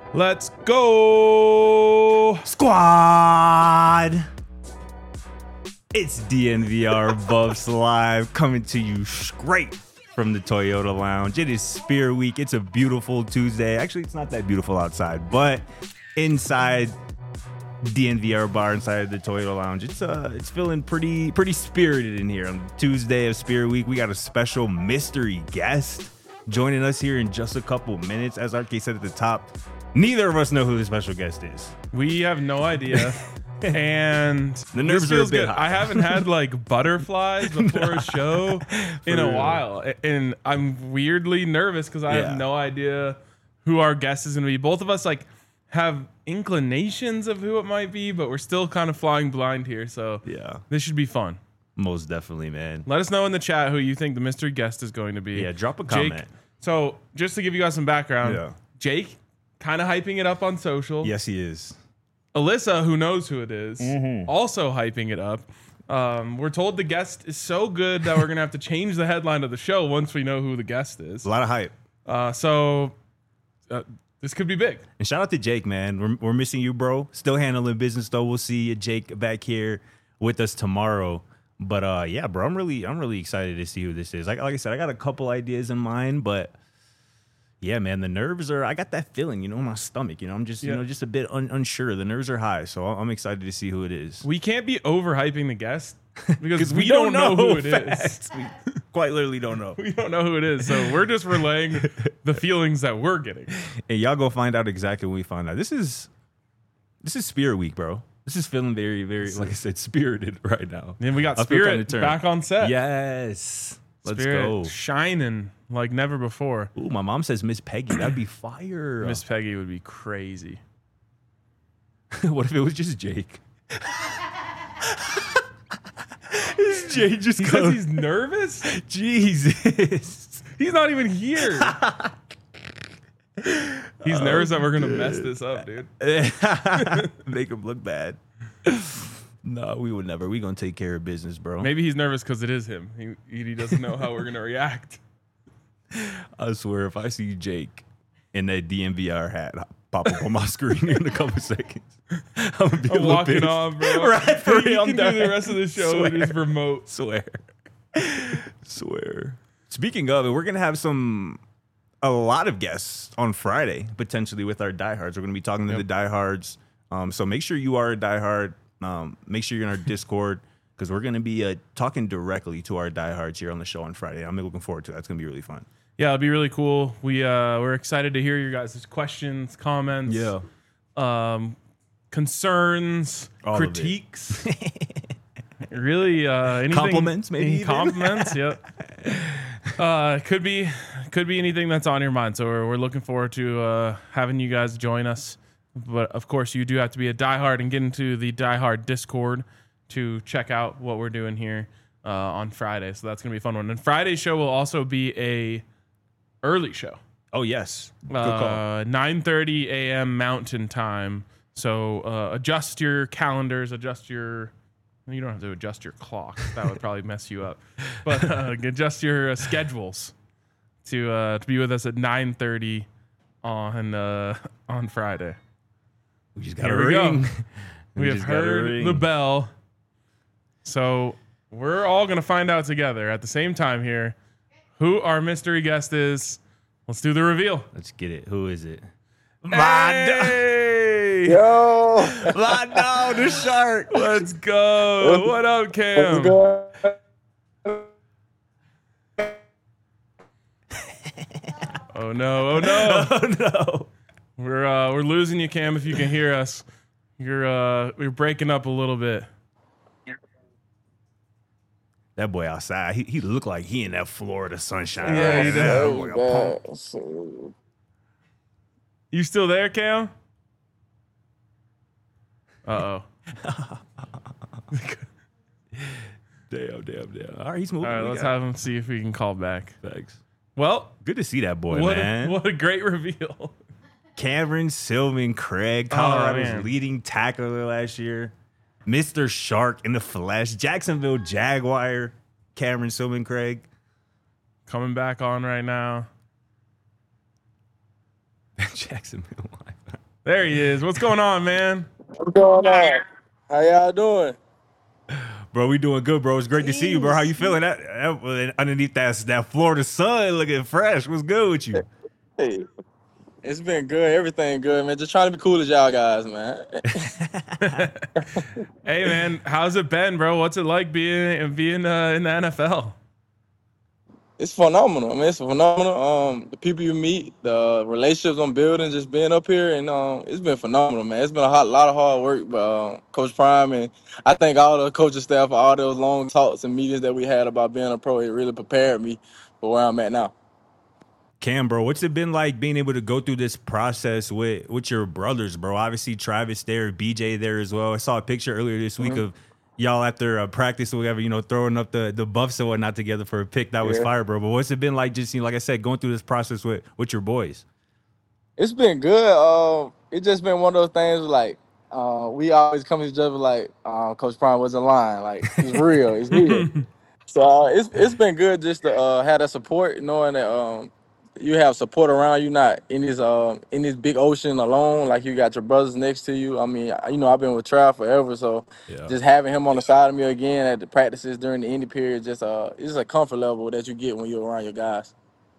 Let's go! Squad! It's DNVR Buffs Live coming to you straight from the Toyota Lounge. It is Spear Week. It's a beautiful Tuesday. Actually, it's not that beautiful outside, but inside DNVR bar, inside the Toyota Lounge, it's feeling pretty spirited in here. On Tuesday of Spear Week, we got a special mystery guest joining us here in just a couple minutes. As RK said at the top, neither of us know who the special guest is. We have no idea. And the nerves are a bit high. I haven't had like butterflies before a show in a while. And I'm weirdly nervous because I have no idea who our guest is going to be. Both of us like have inclinations of who it might be, but we're still kind of flying blind here. So this should be fun. Most definitely, man. Let us know in the chat who you think the mystery guest is going to be. Yeah, drop a comment. Jake, so just to give you guys some background, Jake kind of hyping it up on social. Yes, he is. Alyssa, who knows who it is, also hyping it up. We're told the guest is so good that we're going to have to change the headline of the show once we know who the guest is. A lot of hype. So this could be big. And shout out to Jake, man. We're missing you, bro. Still handling business, though. We'll see you, Jake, back here with us tomorrow. But yeah, bro, I'm really excited to see who this is. Like I said, I got a couple ideas in mind, but yeah, man, the nerves are. I got that feeling, in my stomach. I'm just, just a bit unsure. The nerves are high, so I'm excited to see who it is. We can't be overhyping the guest because we don't know who it is. We quite literally don't know. We don't know who it is, so we're just relaying the feelings that we're getting. And y'all go find out exactly when we find out. This is Spirit Week, bro. This is feeling very, very, like I said, spirited right now. And we got Spirit back on set. Yes. Let's Spirit go. Shining like never before. Ooh, my mom says Miss Peggy. That'd be fire. Miss Peggy would be crazy. What if it was just Jake? Is Jake just because he's nervous? Jesus. He's not even here. He's nervous that we're going to mess this up, dude. Make him look bad. No, we would never. We're going to take care of business, bro. Maybe he's nervous because it is him. He doesn't know how we're going to react. I swear, if I see Jake in that DNVR hat pop up on my screen in a couple seconds, I'm going to be walking off, bro. Right, for real. You can do the rest of the show with his remote. Swear. Speaking of it, we're going to have a lot of guests on Friday, potentially with our diehards. We're going to be talking to the diehards. So make sure you are a diehard. Make sure you're in our Discord because we're going to be talking directly to our diehards here on the show on Friday. I'm looking forward to that. It's going to be really fun. Yeah, it'll be really cool. We're excited to hear your guys' questions, comments, concerns, all critiques. Really, anything, compliments, maybe. Compliments, yep. Could be anything that's on your mind. So we're looking forward to having you guys join us. But of course, you do have to be a diehard and get into the diehard Discord to check out what we're doing here on Friday. So that's gonna be a fun one. And Friday's show will also be a early show. Oh yes, good call. 9:30 a.m. Mountain Time. So adjust your calendars. You don't have to adjust your clock. That would probably mess you up. But adjust your schedules to be with us at 9:30 on Friday. We just got a ring. We have heard the bell. So we're all going to find out together at the same time here who our mystery guest is. Let's do the reveal. Let's get it. Who is it? Hey! Yo! Vado, the shark. Let's go. What up, Cam? Oh no! Oh no! We're losing you, Cam. If you can hear us, you're breaking up a little bit. That boy outside, he looked like he in that Florida sunshine. Yeah, he does. You still there, Cam? Uh-oh. Damn. All right, he's moving. All right, let's have him see if we can call back. Thanks. Well, good to see that boy, man. What a great reveal. Cameron Sylvan Craig, Colorado's leading tackler last year. Mr. Shark in the flesh. Jacksonville Jaguar, Cameron Sylvan Craig. Coming back on right now. Jacksonville live. There he is. What's going on, man? What's going on? How y'all doing? Bro, we doing good, bro. It's great to see you, bro. How you feeling? Underneath that Florida sun, looking fresh. What's good with you? Hey, it's been good. Everything good, man. Just trying to be cool as y'all guys, man. Hey, man, how's it been, bro? What's it like being in the NFL? It's phenomenal. I mean, it's phenomenal. The people you meet, the relationships I'm building, just being up here, and it's been phenomenal, man. It's been lot of hard work, but Coach Prime and I think all the coaching staff, all those long talks and meetings that we had about being a pro, it really prepared me for where I'm at now. Cam, bro, what's it been like being able to go through this process with your brothers, bro? Obviously, Travis there, BJ there as well. I saw a picture earlier this week of y'all after a practice or whatever, throwing up the buffs and whatnot together for a pick. That was Yeah. fire, bro. But what's it been like just, like I said, going through this process with your boys? It's been good. It just been one of those things like we always come to each other like Coach Prime was in line. Like it's real. It's real. So it's been good just to have that support, knowing that you have support around you, not in this big ocean alone. Like you got your brothers next to you. I mean, I've been with Trav forever, so Yeah. just having him on the side of me again at the practices during the indie period, just it's a comfort level that you get when you're around your guys.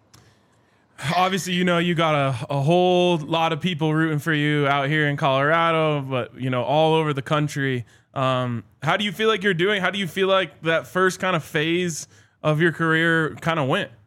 Obviously, you got a whole lot of people rooting for you out here in Colorado, but all over the country. How do you feel like you're doing? How do you feel like that first kind of phase of your career kind of went?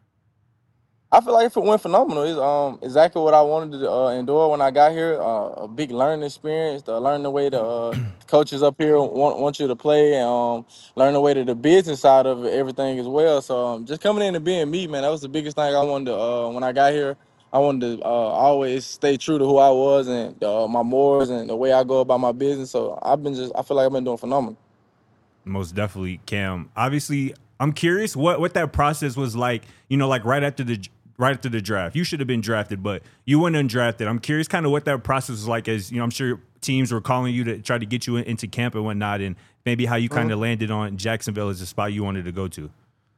I feel like it went phenomenal. It's exactly what I wanted to endure when I got here. A big learning experience. To learn the way the coaches up here want you to play, and learn the way to the business side of everything as well. So just coming in and being me, man, that was the biggest thing I wanted to. When I got here, I wanted to always stay true to who I was and my morals and the way I go about my business. So I feel like I've been doing phenomenal. Most definitely, Cam. Obviously, I'm curious what that process was like. Like right after the draft. You should have been drafted, but you went undrafted. I'm curious, kind of what that process was like. As I'm sure teams were calling you to try to get you into camp and whatnot, and maybe how you kind of landed on Jacksonville as a spot you wanted to go to.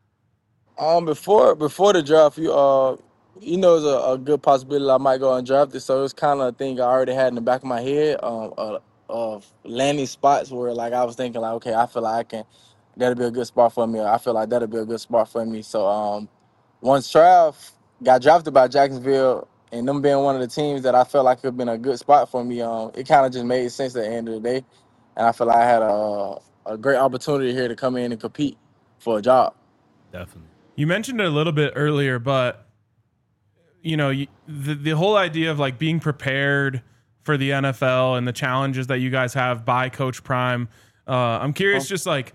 Before the draft, it's a good possibility I might go undrafted. So it's kind of a thing I already had in the back of my head, of landing spots where like I was thinking like, okay, I feel like that'll be a good spot for me. Or I feel like that'll be a good spot for me. So once Trav got drafted by Jacksonville and them being one of the teams that I felt like could have been a good spot for me, it kind of just made sense at the end of the day, and I feel like I had a great opportunity here to come in and compete for a job. Definitely. You mentioned it a little bit earlier, but the whole idea of like being prepared for the NFL and the challenges that you guys have by Coach Prime. I'm curious, just like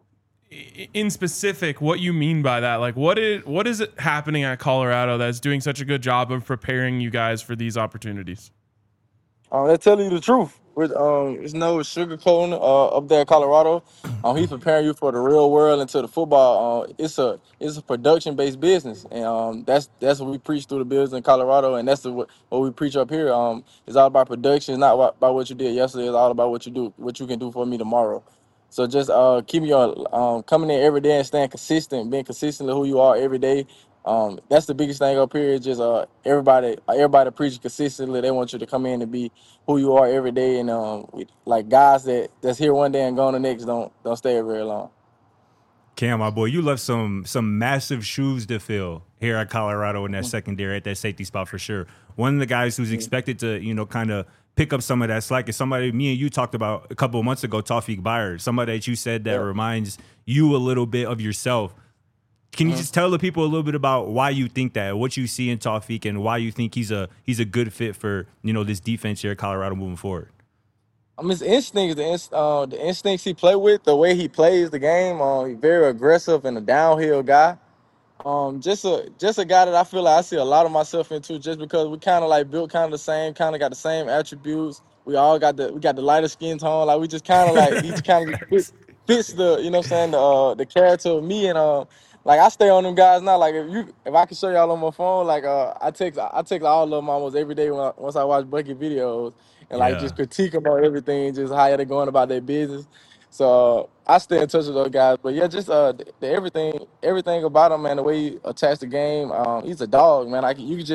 in specific, what you mean by that. Like, what is it happening at Colorado that's doing such a good job of preparing you guys for these opportunities? They're telling you the truth. It's no sugarcoating up there in Colorado. He's preparing you for the real world into the football. It's a production based business, and that's what we preach through the business in Colorado, and that's what we preach up here. It's all about production. It's not about what you did yesterday. It's all about what you can do for me tomorrow. So just keeping your coming in every day and staying consistent, being consistently who you are every day. That's the biggest thing up here. Is just everybody preaching consistently. They want you to come in and be who you are every day, and like guys that's here one day and gone the next don't stay very long. Cam, my boy, you left some massive shoes to fill here at Colorado in that secondary at that safety spot for sure. One of the guys who's expected to, kind of pick up some of that slack is somebody me and you talked about a couple of months ago, Tawfiq Byard, somebody that you said that reminds you a little bit of yourself. Can you just tell the people a little bit about why you think that, what you see in Tawfiq, and why you think he's a good fit for this defense here at Colorado moving forward? His instincts, the instincts he play with, the way he plays the game. He's very aggressive and a downhill guy. Just a guy that I feel like I see a lot of myself into, just because we kind of like built kind of the same, kind of got the same attributes. We got the lighter skin tone. Like we just kind of like he just kind of fits the what I'm saying, the character of me, and like I stay on them guys now. Like if I can show y'all on my phone, like I text all of them almost every day once I watch Bucket videos, and like Yeah. just critique them on everything, just how they're going about their business. So I stay in touch with those guys. But yeah, just everything about him, man. The way he attacks the game, he's a dog, man. Like you can just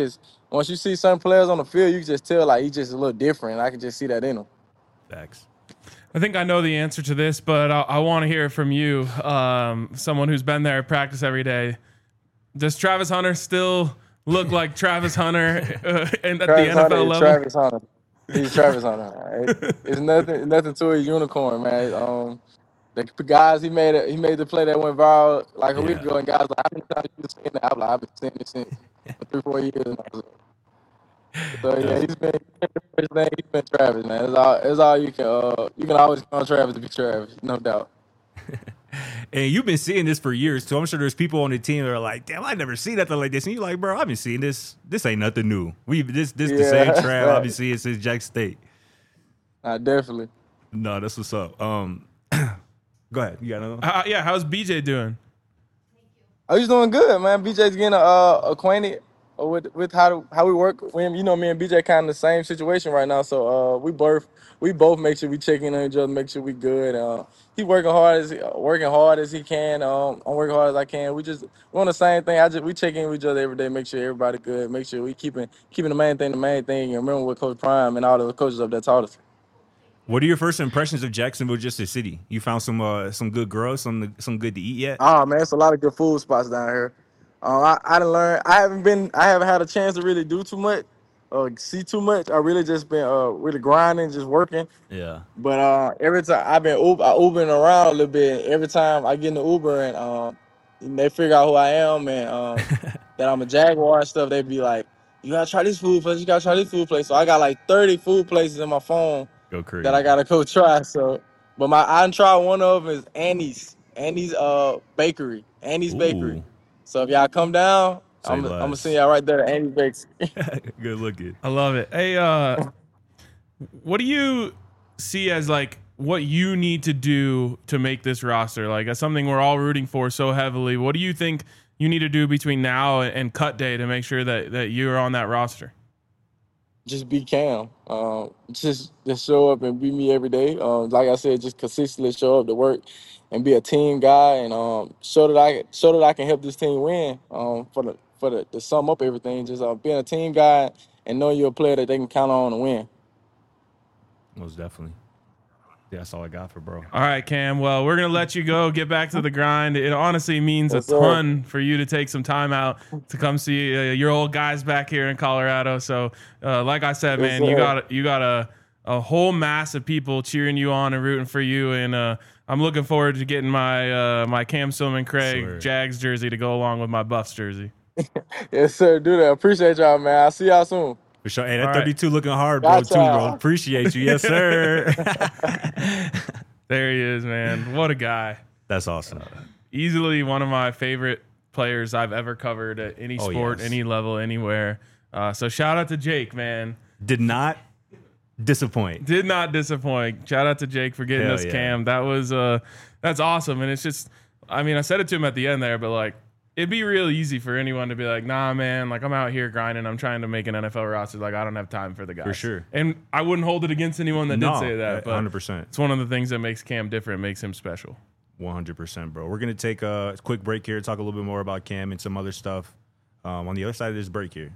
once you see certain players on the field, you can just tell like he's just a little different. I can just see that in him. Facts. I think I know the answer to this, but I want to hear it from you, someone who's been there at practice every day. Does Travis Hunter still look like Travis Hunter and at the Travis Hunter NFL is level? Travis Hunter. He's Travis Hunter. It's nothing to a unicorn, man. The guys he made the play that went viral like a week Yeah. ago, and guys like, how many times you seen that? I'm like, I've been seeing this since for 3-4 years now. So yeah, he's been Travis, man. It's all you can always call Travis to be Travis, no doubt. And you've been seeing this for years, too. I'm sure there's people on the team that are like, damn, I never seen nothing like this. And you're like, bro, I've been seeing this. This ain't nothing new. This the Yeah, same Trav right. I've been seeing since Jack State. Definitely. No, that's what's up. Go ahead. You got another one? Yeah, how's BJ doing? Oh, he's doing good, man. BJ's getting acquainted with how we work. Me and BJ kind of the same situation right now. So we both make sure we check in on each other, make sure we good. He working hard as he can. I'm working hard as I can. We're on the same thing. We check in with each other every day, make sure everybody good, make sure we keeping the main thing. And remember what Coach Prime and all the coaches up there taught us. What are your first impressions of Jacksonville, just the city? You found some good growth, some good to eat yet? Oh man, it's a lot of good food spots down here. I done learned. I haven't had a chance to really do too much, see too much. I really just been really grinding, just working. Yeah. But every time I've been Ubering around a little bit. Every time I get in the Uber and they figure out who I am and that I'm a Jaguar and stuff, they be like, "You gotta try this food place. You gotta try this food place." So I got like 30 food places in my phone Go crazy. that I gotta go try. So, but I done tried one of them is Annie's Bakery, Annie's Bakery. Ooh. So if y'all come down, Say I'm less. gonna send y'all right there to Annie's Bakery. Good looking. I love it. Hey, what do you see as like what you need to do to make this roster? Like as something we're all rooting for so heavily. What do you think you need to do between now and cut day to make sure that you're on that roster? Just be Cam. Just show up and be me every day. Like I said, just consistently show up to work and be a team guy and show that I can help this team win. To sum up everything, just being a team guy and knowing you're a player that they can count on to win. Most definitely. Yeah, that's all I got for bro. All right, Cam. Well, we're going to let you go, get back to the grind. It honestly means Yes, a ton for you to take some time out to come see your old guys back here in Colorado. So, like I said, Yes, man, sir. you got a whole mass of people cheering you on and rooting for you. And I'm looking forward to getting my Cam Silman Craig Swear. Jags jersey to go along with my Buffs jersey. Yes, sir. Do that. Appreciate y'all, man. I'll see y'all soon. For sure. Hey, that All right. 32 looking hard, bro, Gotcha. too, bro. Appreciate you. Yes, sir. There he is, man. What a guy. That's awesome. Easily one of my favorite players I've ever covered at any Oh, sport, yes. any level, anywhere. So shout out to Jake, man. Did not disappoint. Did not disappoint. Shout out to Jake for getting Hell us yeah. Cam. That was that's awesome. And it's just, I mean, I said it to him at the end there, but like it'd be real easy for anyone to be like, nah, man, like I'm out here grinding. I'm trying to make an NFL roster. Like I don't have time for the guys. For sure. And I wouldn't hold it against anyone that did say that. But 100%. it's one of the things that makes Cam different, makes him special. 100%, bro. We're going to take a quick break here, talk a little bit more about Cam and some other stuff on the other side of this break here.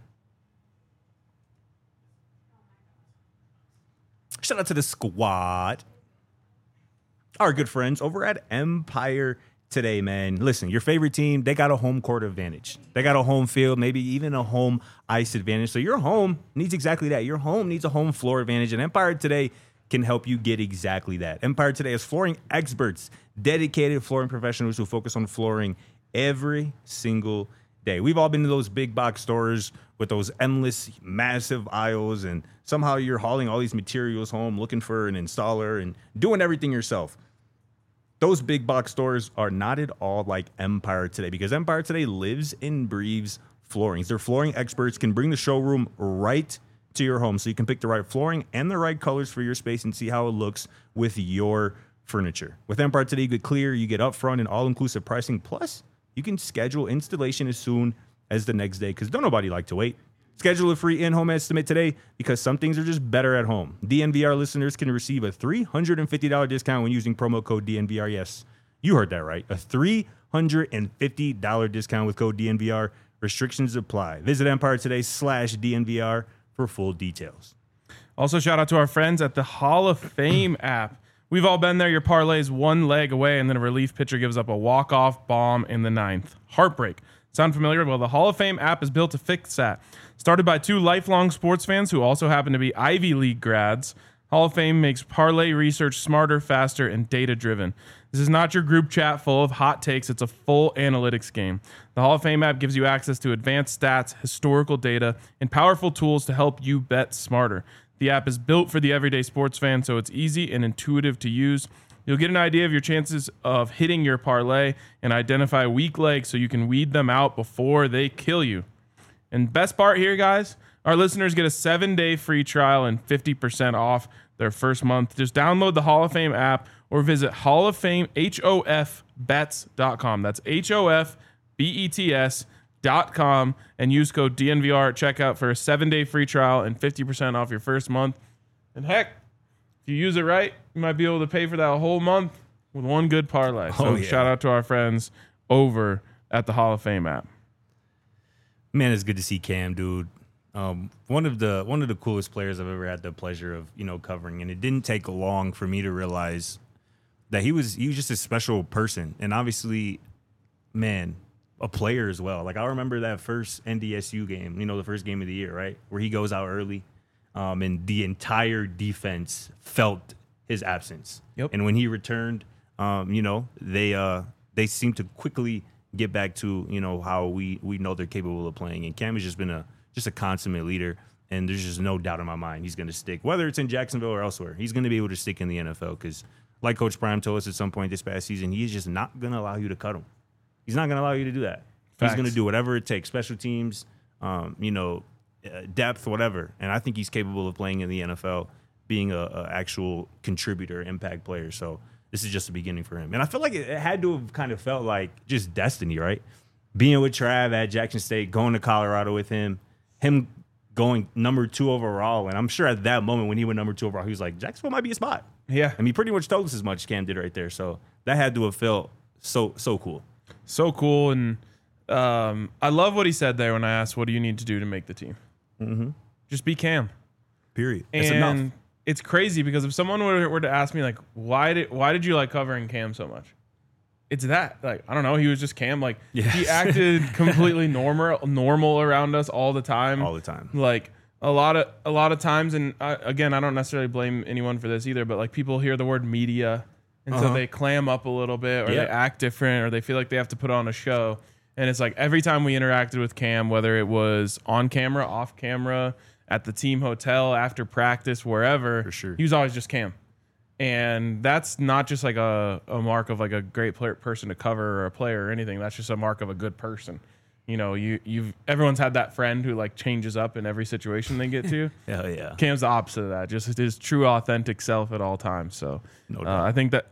Shout out to the squad. Our good friends over at Empire today, man. Listen, your favorite team, they got a home court advantage. They got a home field, maybe even a home ice advantage. So your home needs exactly that. Your home needs a home floor advantage, and Empire today can help you get exactly that. Empire today is flooring experts, dedicated flooring professionals who focus on flooring every single day. We've all been to those big box stores with those endless, massive aisles, and somehow you're hauling all these materials home, looking for an installer and doing everything yourself. Those big box stores are not at all like Empire today, because Empire today lives and breathes flooring. Their flooring experts can bring the showroom right to your home so you can pick the right flooring and the right colors for your space and see how it looks with your furniture. With Empire today, you get clear, you get upfront and all-inclusive pricing. Plus, you can schedule installation as soon as the next day, because don't nobody like to wait. Schedule a free in-home estimate today, because some things are just better at home. DNVR listeners can receive a $350 discount when using promo code DNVR. Yes, you heard that right. A $350 discount with code DNVR. Restrictions apply. Visit EmpireToday.com/DNVR for full details. Also, shout out to our friends at the Hall of Fame app. We've all been there. Your parlay's one leg away, and then a relief pitcher gives up a walk-off bomb in the ninth. Heartbreak. Sound familiar? Well, the Hall of Fame app is built to fix that. Started by two lifelong sports fans who also happen to be Ivy League grads, Hall of Fame makes parlay research smarter, faster, and data-driven. This is not your group chat full of hot takes. It's a full analytics game. The Hall of Fame app gives you access to advanced stats, historical data, and powerful tools to help you bet smarter. The app is built for the everyday sports fan, so it's easy and intuitive to use. You'll get an idea of your chances of hitting your parlay and identify weak legs so you can weed them out before they kill you. And best part here, guys, our listeners get a 7-day free trial and 50% off their first month. Just download the Hall of Fame app or visit HofBets.com. That's HofBets.com and use code DNVR at checkout for a 7-day free trial and 50% off your first month. And heck, if you use it right, you might be able to pay for that whole month with one good parlay. So shout out to our friends over at the Hall of Fame app. Man, it's good to see Cam, dude. One of the coolest players I've ever had the pleasure of, covering. And it didn't take long for me to realize that he was just a special person. And obviously, man, a player as well. Like, I remember that first NDSU game, the first game of the year, right? Where he goes out early. And the entire defense felt his absence. Yep. And when he returned, they seemed to quickly get back to, how we know they're capable of playing. And Cam has just been a consummate leader. And there's just no doubt in my mind he's going to stick. Whether it's in Jacksonville or elsewhere, he's going to be able to stick in the NFL because, like Coach Prime told us at some point this past season, he is just not going to allow you to cut him. He's not going to allow you to do that. Facts. He's going to do whatever it takes, special teams, depth, whatever. And I think he's capable of playing in the NFL, being a actual contributor, impact player. So this is just the beginning for him. And I feel like it had to have kind of felt like just destiny, right? Being with Trav at Jackson State, going to Colorado with him going number 2 overall. And I'm sure at that moment when he went number 2 overall, he was like, Jacksonville might be a spot. Yeah. I mean, pretty much told us as much Cam did right there. So that had to have felt so cool. So cool. And I love what he said there when I asked, what do you need to do to make the team? Mm-hmm. Just be Cam. Period. That's enough. It's crazy because if someone were to ask me, like, why did you like covering Cam so much? It's that, like, I don't know. He was just Cam. Like, He acted completely normal around us all the time. All the time. Like, a lot of times, and again, I don't necessarily blame anyone for this either, but like people hear the word media, and so they clam up a little bit, or they act different, or they feel like they have to put on a show. And it's like every time we interacted with Cam, whether it was on camera, off camera, at the team hotel, after practice, wherever, for sure, he was always just Cam. And that's not just like a mark of like a great person to cover or a player or anything. That's just a mark of a good person. Everyone's had that friend who like changes up in every situation they get to. Hell yeah. Cam's the opposite of that. Just his true, authentic self at all times. So I think that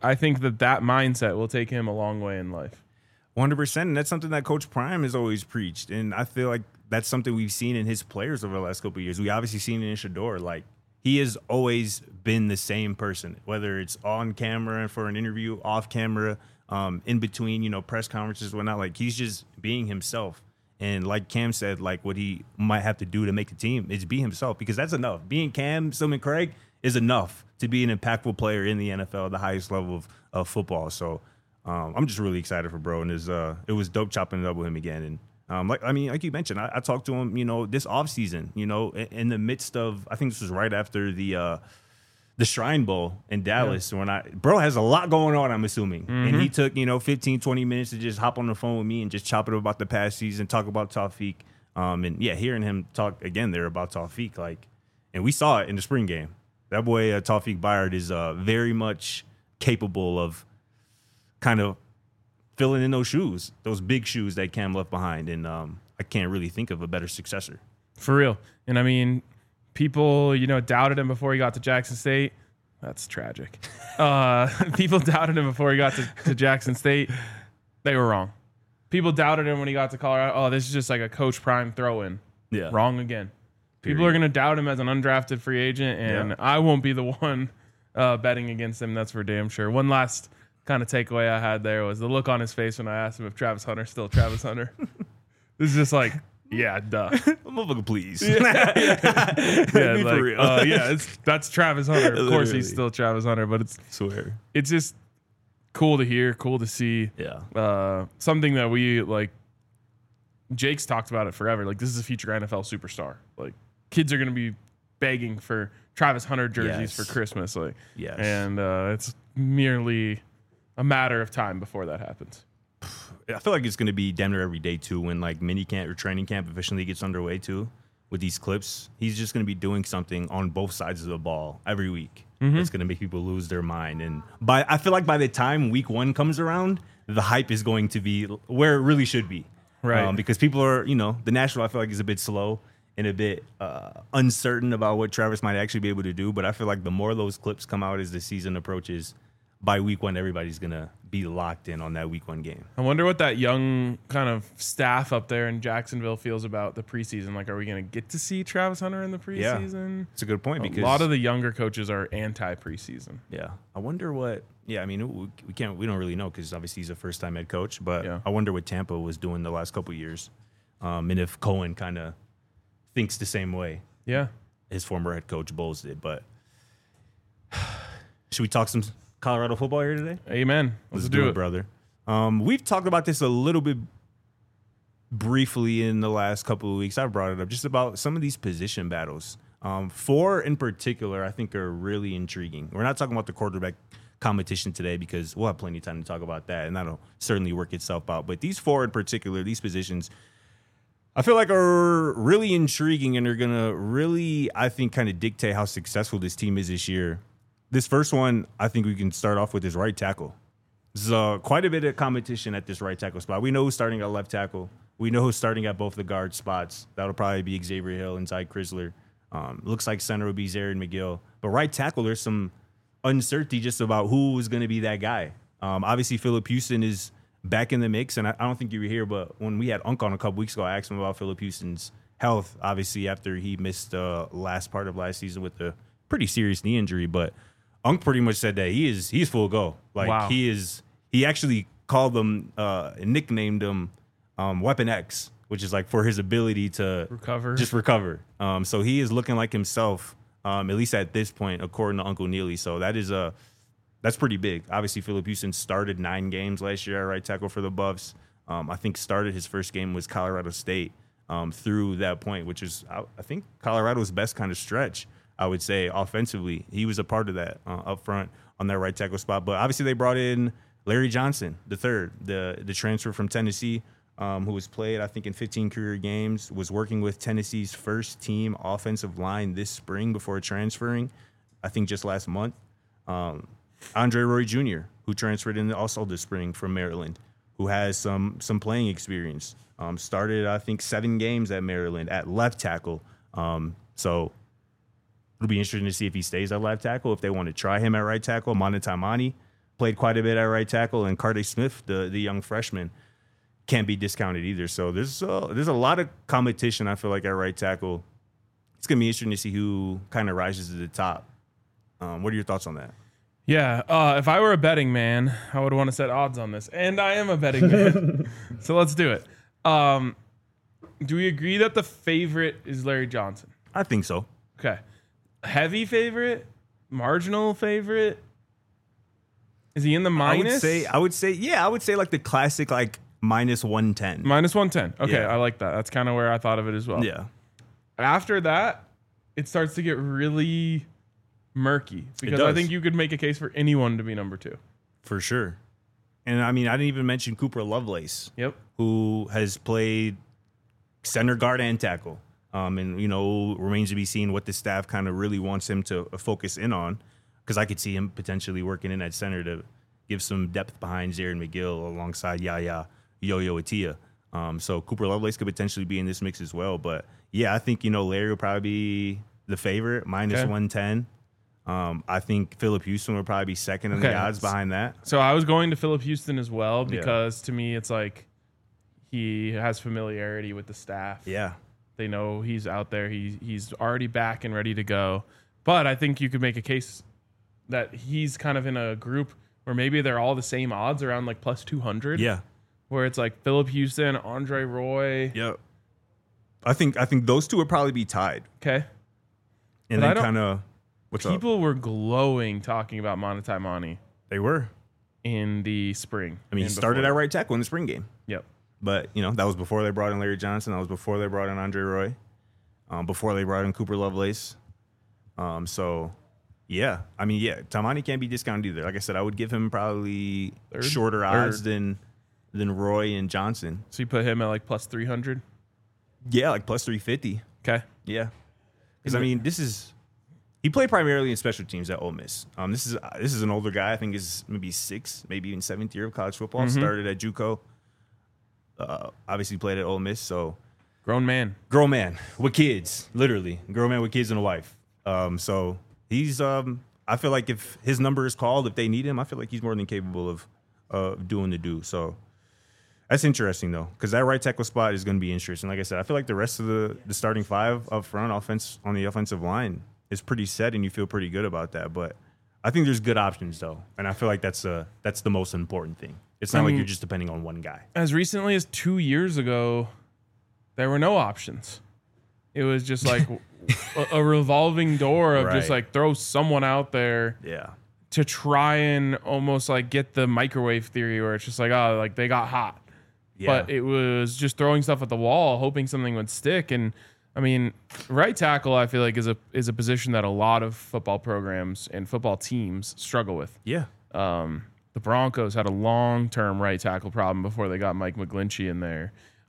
mindset will take him a long way in life. 100%. And that's something that Coach Prime has always preached. And I feel like that's something we've seen in his players over the last couple of years. We obviously seen it in Shedeur. Like, he has always been the same person, whether it's on camera for an interview, off camera, in between, press conferences, whatnot. Like, he's just being himself. And like Cam said, like, what he might have to do to make the team is be himself, because that's enough. Being Cam Stillman Craig is enough to be an impactful player in the NFL, the highest level of football. So I'm just really excited for bro. And it was dope chopping it up with him again. And like you mentioned, I talked to him, this offseason, in the midst of, I think this was right after the Shrine Bowl in Dallas. Yeah. Bro has a lot going on, I'm assuming. Mm-hmm. And he took, 15, 20 minutes to just hop on the phone with me and just chop it up about the past season, talk about Tawfiq. Hearing him talk again there about Tawfiq, and we saw it in the spring game. That boy, Tawfiq Byard, is very much capable of kind of filling in those shoes, those big shoes that Cam left behind. And I can't really think of a better successor. For real. And I mean, people, doubted him before he got to Jackson State. That's tragic. People doubted him before he got to Jackson State. They were wrong. People doubted him when he got to Colorado. Oh, this is just like a Coach Prime throw-in. Yeah. Wrong again. Period. People are going to doubt him as an undrafted free agent, and I won't be the one betting against him. That's for damn sure. One last kind of takeaway I had there was the look on his face when I asked him if Travis Hunter's still Travis Hunter. This is just like, yeah, duh. Motherfucker, please. Yeah, Be like, for real. that's Travis Hunter. Of course, he's Literally. still Travis Hunter, but Swear. it's just cool to hear, cool to see. Yeah. Something that we like. Jake's talked about it forever. Like, this is a future NFL superstar. Like, kids are gonna be begging for Travis Hunter jerseys Yes. for Christmas. Like, Yes. and it's merely a matter of time before that happens. I feel like it's going to be damn near every day too when like mini camp or training camp officially gets underway too with these clips. He's just going to be doing something on both sides of the ball every week. It's going to make people lose their mind. And I feel like by the time week 1 comes around, the hype is going to be where it really should be. Right. Because people are, the national I feel like is a bit slow and a bit uncertain about what Travis might actually be able to do. But I feel like the more those clips come out as the season approaches, by week 1, everybody's going to be locked in on that week 1 game. I wonder what that young kind of staff up there in Jacksonville feels about the preseason. Like, are we going to get to see Travis Hunter in the preseason? It's a good point because A lot of the younger coaches are anti-preseason. yeah. I wonder what. Yeah, I mean, we don't really know because obviously he's a first-time head coach. But Yeah. I wonder what Tampa was doing the last couple of years, and if Cohen kind of thinks the same way Yeah. his former head coach Bowles did. But should we talk some Colorado football here today? Amen. Let's do it. brother. We've talked about this a little bit briefly in the last couple of weeks. I've brought it up just about some of these position battles. 4 in particular, I think, are really intriguing. We're not talking about the quarterback competition today because we'll have plenty of time to talk about that, and that'll certainly work itself out. But these 4 in particular, these positions, I feel like are really intriguing and are going to really, I think, kind of dictate how successful this team is this year. This first one, I think we can start off with is right tackle. There's quite a bit of competition at this right tackle spot. We know who's starting at left tackle. We know who's starting at both the guard spots. That'll probably be Xavier Hill and Ty Chrysler. Looks like center will be Zarin McGill. But right tackle, there's some uncertainty just about who is going to be that guy. Obviously, Philip Houston is back in the mix, and I don't think you were here, but when we had Unc on a couple weeks ago, I asked him about Philip Houston's health, obviously, after he missed the last part of last season with a pretty serious knee injury. But Unc pretty much said that he's full go. Like Wow. he actually called them and nicknamed him Weapon X, which is like for his ability to recover. So he is looking like himself, at least at this point, according to Uncle Neely. So that's pretty big. Obviously, Philip Houston started 9 games last year at right tackle for the Buffs. I think started his first game was Colorado State through that point, which is I think Colorado's best kind of stretch. I would say offensively, he was a part of that up front on that right tackle spot. But obviously, they brought in Larry Johnson, the transfer from Tennessee, who was played, I think, in 15 career games, was working with Tennessee's first team offensive line this spring before transferring, I think just last month. Andre Roy Jr., who transferred in also this spring from Maryland, who has some playing experience. Started, I think, 7 games at Maryland at left tackle. So it'll be interesting to see if he stays at left tackle, if they want to try him at right tackle. Mana Taimani played quite a bit at right tackle, and Carter Smith, the young freshman, can't be discounted either. So there's a lot of competition, I feel like, at right tackle. It's going to be interesting to see who kind of rises to the top. What are your thoughts on that? Yeah, if I were a betting man, I would want to set odds on this, and I am a betting man, so let's do it. Do we agree that the favorite is Larry Johnson? I think so. Okay. Heavy favorite? Marginal favorite? Is he in the minus? I would say like the classic like minus 110. Minus 110. Okay, Yeah. I like that. That's kind of where I thought of it as well. Yeah. After that, it starts to get really murky because I does. think you could make a case for anyone to be number 2. For sure. And I mean, I didn't even mention Cooper Lovelace, Yep. who has played center guard and tackle. And, remains to be seen what the staff kind of really wants him to focus in on, because I could see him potentially working in at center to give some depth behind Zarin McGill alongside Yo-Yo Atia. So Cooper Lovelace could potentially be in this mix as well. But, yeah, I think, Larry will probably be the favorite, minus 110. I think Philip Houston would probably be second in the odds behind that. So I was going to Philip Houston as well because to me it's like he has familiarity with the staff. Yeah. They know he's out there. He's already back and ready to go. But I think you could make a case that he's kind of in a group where maybe they're all the same odds around like plus 200. Yeah. where it's like Philip Houston, Andre Roy. Yep. I think those two would probably be tied. Okay. And But I then don't- kind of what's up? People were glowing talking about Monotai Mani They were. in the spring. I mean, he and started before. at right tackle in the spring game. Yep. But, that was before they brought in Larry Johnson. That was before they brought in Andre Roy. Before they brought in Cooper Lovelace. So, yeah. I mean, yeah, Tamani can't be discounted either. Like I said, I would give him probably shorter odds than Roy and Johnson. So you put him at like plus 300. Yeah, like plus 350. Okay. Yeah. Because, I mean, he played primarily in special teams at Ole Miss. This is an older guy. I think is maybe 6th, maybe even 7th year of college football. Started at JUCO. Obviously played at Ole Miss, so Grown man. grown man with kids, literally grown man with kids and a wife. So he's I feel like if his number is called, if they need him, I feel like he's more than capable of doing the do. So that's interesting though, because that right tackle spot is going to be interesting. Like I said, I feel like the rest of the starting five up front, offense on the offensive line is pretty set, and you feel pretty good about that. But I think there's good options though, and I feel like that's the most important thing. It's not like you're just depending on one guy. As recently as 2 years ago, there were no options. It was just like a revolving door of just Right. like throw someone out there Yeah. to try and almost like get the microwave theory where it's just like, oh, like they got hot. Yeah. But it was just throwing stuff at the wall, hoping something would stick. And I mean, right tackle, I feel like is a position that a lot of football programs and football teams struggle with. Yeah. The Broncos had a long-term right tackle problem before they got Mike McGlinchey in there.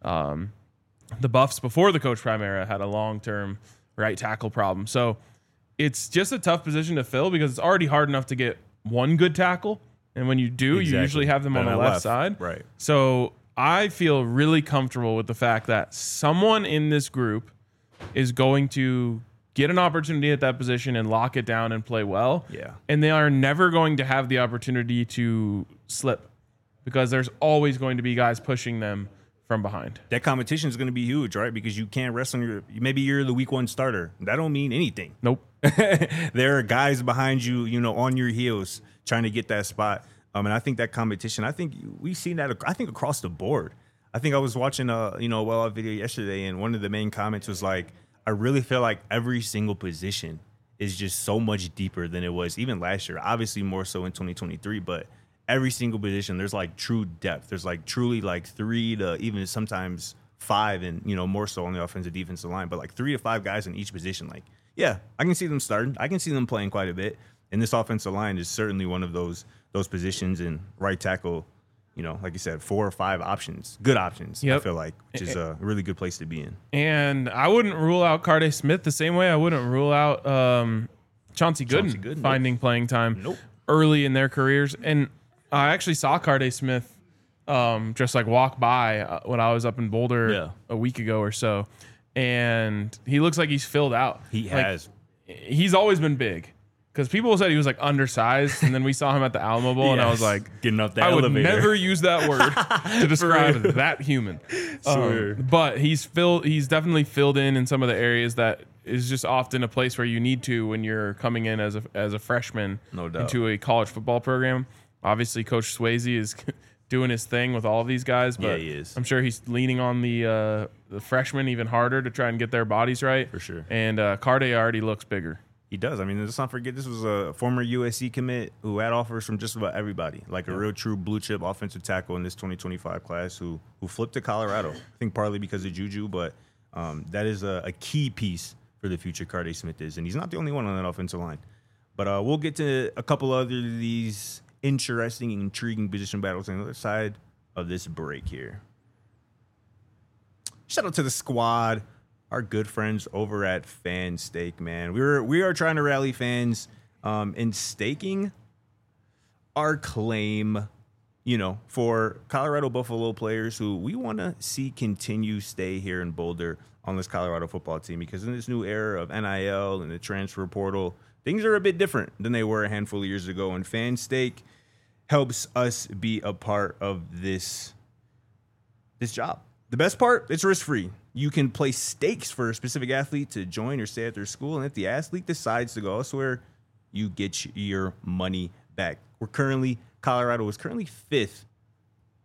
The Buffs before the Coach Prime era had a long-term right tackle problem. So it's just a tough position to fill because it's already hard enough to get one good tackle. And when you do, you usually have them on the left side. Right. So I feel really comfortable with the fact that someone in this group is going to get an opportunity at that position and lock it down and play well. Yeah. And they are never going to have the opportunity to slip because there's always going to be guys pushing them from behind. That competition is going to be huge, right? Because you can't rest on maybe you're the week 1 starter. That don't mean anything. Nope. There are guys behind you, on your heels trying to get that spot. And I think that competition, I think we've seen that, I think across the board. I think I was watching a well-off video yesterday, and one of the main comments was like, I really feel like every single position is just so much deeper than it was even last year. Obviously more so in 2023, but every single position, there's like true depth. There's like truly like 3 to even sometimes 5 and, more so on the offensive defensive line, but like 3 to 5 guys in each position. Like, yeah, I can see them starting. I can see them playing quite a bit. And this offensive line is certainly one of those positions, and right tackle, like you said, 4 or 5 options, good options, Yep. I feel like, which is a really good place to be in. And I wouldn't rule out Carday Smith the same way I wouldn't rule out Chauncey Gooden finding playing time Nope. early in their careers. And I actually saw Carday Smith just like walk by when I was up in Boulder a week ago or so. And he looks like he's filled out. He Like, has. He's always been big. Because people said he was like undersized, and then we saw him at the Alamo Bowl, and I was like, getting up the I would elevator. never use that word to describe that human. Sure. But he's definitely filled in some of the areas that is just often a place where you need to when you're coming in as a freshman No doubt. into a college football program. Obviously, Coach Swayze is doing his thing with all of these guys, but Yeah, he is. I'm sure he's leaning on the freshmen even harder to try and get their bodies right. For sure. And Carday already looks bigger. He does. I mean, let's not forget this was a former USC commit who had offers from just about everybody, like a real true blue chip offensive tackle in this 2025 class who flipped to Colorado. I think partly because of Juju, but that is a key piece for the future Carday Smith is. And he's not the only one on that offensive line. But we'll get to a couple other of these interesting and intriguing position battles on the other side of this break here. Shout out to the squad. Our good friends over at Fan Stake, man. We are trying to rally fans in staking our claim, for Colorado Buffalo players who we want to see continue stay here in Boulder on this Colorado football team, because in this new era of NIL and the transfer portal, things are a bit different than they were a handful of years ago, and Fan Stake helps us be a part of this job. The best part, it's risk-free. You can place stakes for a specific athlete to join or stay at their school, and if the athlete decides to go elsewhere, you get your money back. Colorado is currently 5th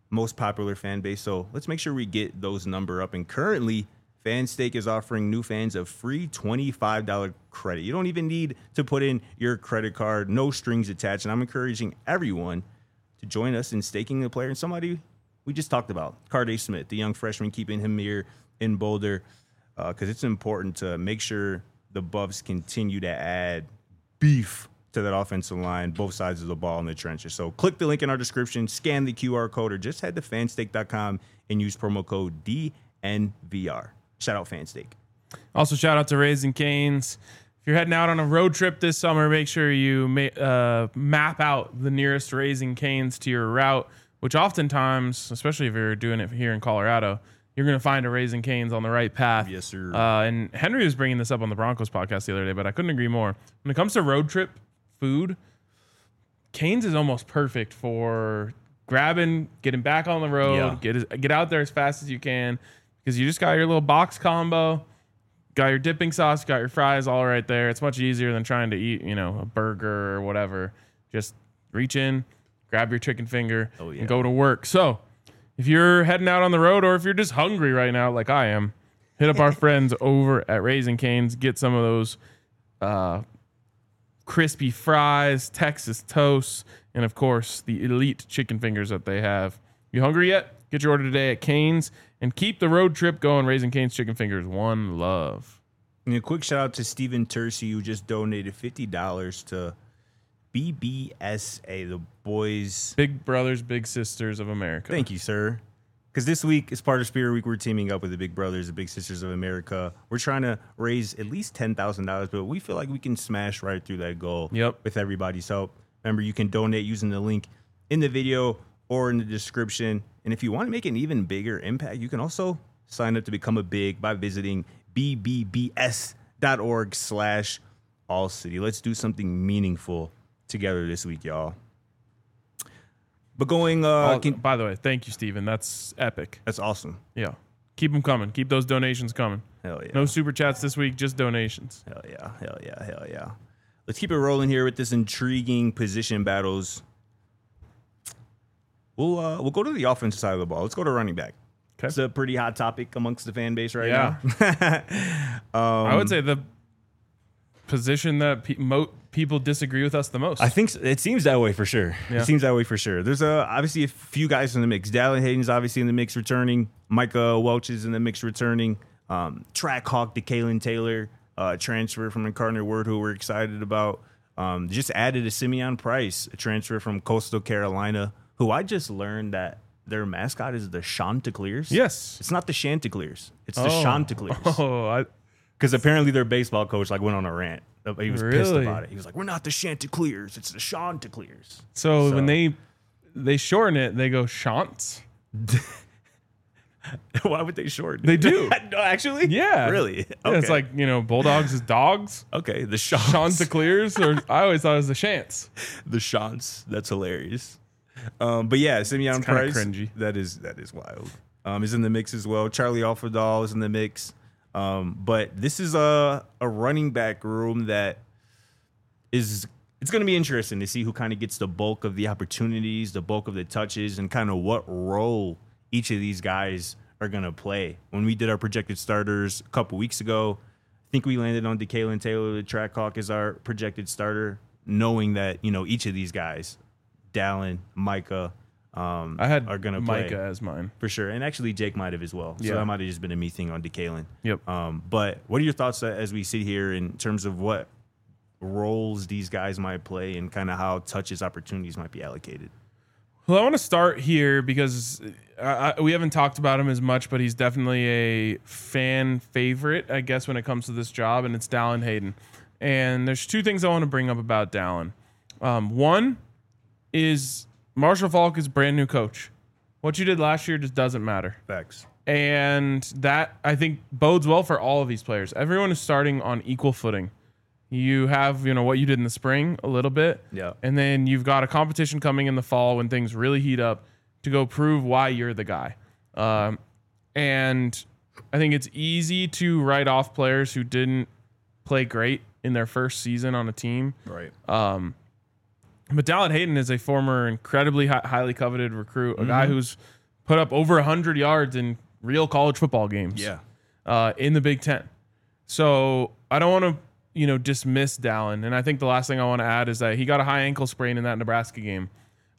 most popular fan base. So let's make sure we get those number up. And currently, FanStake is offering new fans a free $25 credit. You don't even need to put in your credit card, no strings attached. And I'm encouraging everyone to join us in staking the player and somebody we just talked about, Carday Smith, the young freshman, keeping him here in Boulder, because it's important to make sure the Buffs continue to add beef to that offensive line, both sides of the ball in the trenches. So click the link in our description, scan the QR code, or just head to fanstake.com and use promo code DNVR. Shout out FanStake. Also, shout out to Raising Canes. If you're heading out on a road trip this summer, make sure you map out the nearest Raising Canes to your route, which oftentimes, especially if you're doing it here in Colorado, you're going to find a Raising Canes on the right path. Yes, sir. And Henry was bringing this up on the Broncos podcast the other day, but I couldn't agree more. When it comes to road trip food, Canes is almost perfect for grabbing, getting back on the road, get out there as fast as you can, because you just got your little box combo, got your dipping sauce, got your fries all right there. It's much easier than trying to eat, a burger or whatever. Just reach in, grab your chicken finger, and go to work. So if you're heading out on the road, or if you're just hungry right now like I am, hit up our friends over at Raising Canes. Get some of those crispy fries, Texas toast, and of course the elite chicken fingers that they have. You hungry yet? Get your order today at Canes and keep the road trip going. Raising Canes chicken fingers, one love. And a quick shout out to Stephen Tercy, who just donated $50 to BBSA, the Boys Big Brothers, Big Sisters of America. Thank you, sir. Because this week, as part of Spirit Week, we're teaming up with the Big Brothers, the Big Sisters of America. We're trying to raise at least $10,000, but we feel like we can smash right through that goal with everybody's help. Remember, you can donate using the link in the video or in the description. And if you want to make an even bigger impact, you can also sign up to become a big by visiting bbbs.org/allcity. Let's do something meaningful together this week, y'all. But going, by the way, thank you, Steven. That's epic. That's awesome. Yeah. Keep them coming. Keep those donations coming. Hell yeah. No super chats this week, just donations. Hell yeah. Hell yeah. Hell yeah. Let's keep it rolling here with this intriguing position battles. We'll go to the offensive side of the ball. Let's go to running back. Okay. It's a pretty hot topic amongst the fan base right now. I would say the position that people disagree with us the most. I think it seems that way for sure. Yeah. It seems that way for sure. There's obviously a few guys in the mix. Dallin Hayden's obviously in the mix returning. Micah Welch is in the mix returning. Track Hawk, DeKalen Taylor, transfer from Incarnate Word, who we're excited about. Just added a Simeon Price, a transfer from Coastal Carolina, who I just learned that their mascot is the Chanticleers. Yes. It's not the Chanticleers. It's the Chanticleers. Oh, because apparently their baseball coach went on a rant. He was pissed Really? about it. He was like, "We're not the Chanticleers. It's the Chanticleers." So when they shorten it, they go Shants. Why would they shorten? They do. No, actually? Yeah. Really? Yeah, it's like, Bulldogs is dogs. Okay, the Shants. Chanticleers, or I always thought it was the Shants. The Shants. That's hilarious. But yeah, Simeon kinda Price. cringy. That is wild. Is in the mix as well. Charlie Alfredal is in the mix. But this is a running back room that it's going to be interesting to see who kind of gets the bulk of the opportunities, the bulk of the touches, and kind of what role each of these guys are going to play. When we did our projected starters a couple weeks ago, I think we landed on DeKalen Taylor, the track hawk, as our projected starter, knowing that, each of these guys, Dallin, Micah, I had are going to play. Micah as mine. For sure. And actually, Jake might have as well. So Yeah. that might have just been a me thing on DeKalen. Yep. But what are your thoughts as we sit here in terms of what roles these guys might play and kind of how touches opportunities might be allocated? Well, I want to start here because we haven't talked about him as much, but he's definitely a fan favorite, I guess, when it comes to this job, and it's Dallin Hayden. And there's two things I want to bring up about Dallin. One is Marshall Faulk is brand new coach. What you did last year just doesn't matter. Facts. And that, I think, bodes well for all of these players. Everyone is starting on equal footing. You have, what you did in the spring a little bit. Yeah. And then you've got a competition coming in the fall when things really heat up to go prove why you're the guy. And I think it's easy to write off players who didn't play great in their first season on a team. Right. But Dallin Hayden is a former incredibly highly coveted recruit, a guy who's put up over 100 yards in real college football games. In the Big Ten. So I don't want to, dismiss Dallin. And I think the last thing I want to add is that he got a high ankle sprain in that Nebraska game.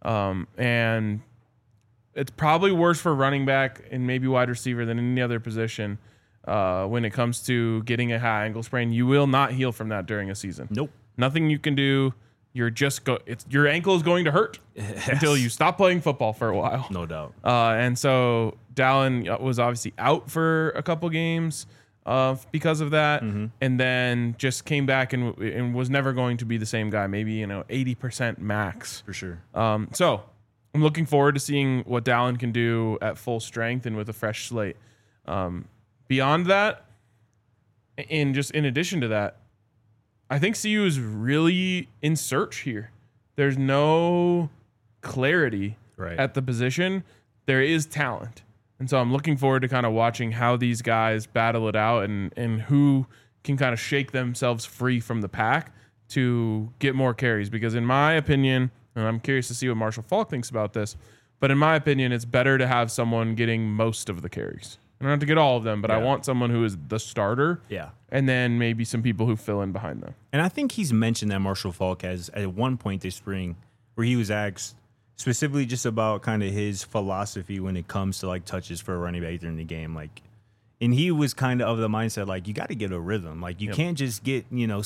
And it's probably worse for running back and maybe wide receiver than any other position when it comes to getting a high ankle sprain. You will not heal from that during a season. Nope. Nothing you can do. You're just your ankle is going to hurt until you stop playing football for a while. No doubt. And so Dallin was obviously out for a couple games because of that, and then just came back and was never going to be the same guy. Maybe 80% max For sure. So I'm looking forward to seeing what Dallin can do at full strength and with a fresh slate. Beyond that, and just in addition to that, I think CU is really in search here. There's no clarity at the position. There is talent. And so I'm looking forward to kind of watching how these guys battle it out and who can kind of shake themselves free from the pack to get more carries. Because in my opinion, and I'm curious to see what Marshall Faulk thinks about this, but in my opinion, it's better to have someone getting most of the carries. I don't have to get all of them, but I want someone who is the starter. Yeah. And then maybe some people who fill in behind them. And I think he's mentioned that Marshall Faulk has at one point this spring where he was asked specifically just about kind of his philosophy when it comes to like touches for a running back during the game. And he was kind of the mindset, like, you got to get a rhythm. Like, you can't just get,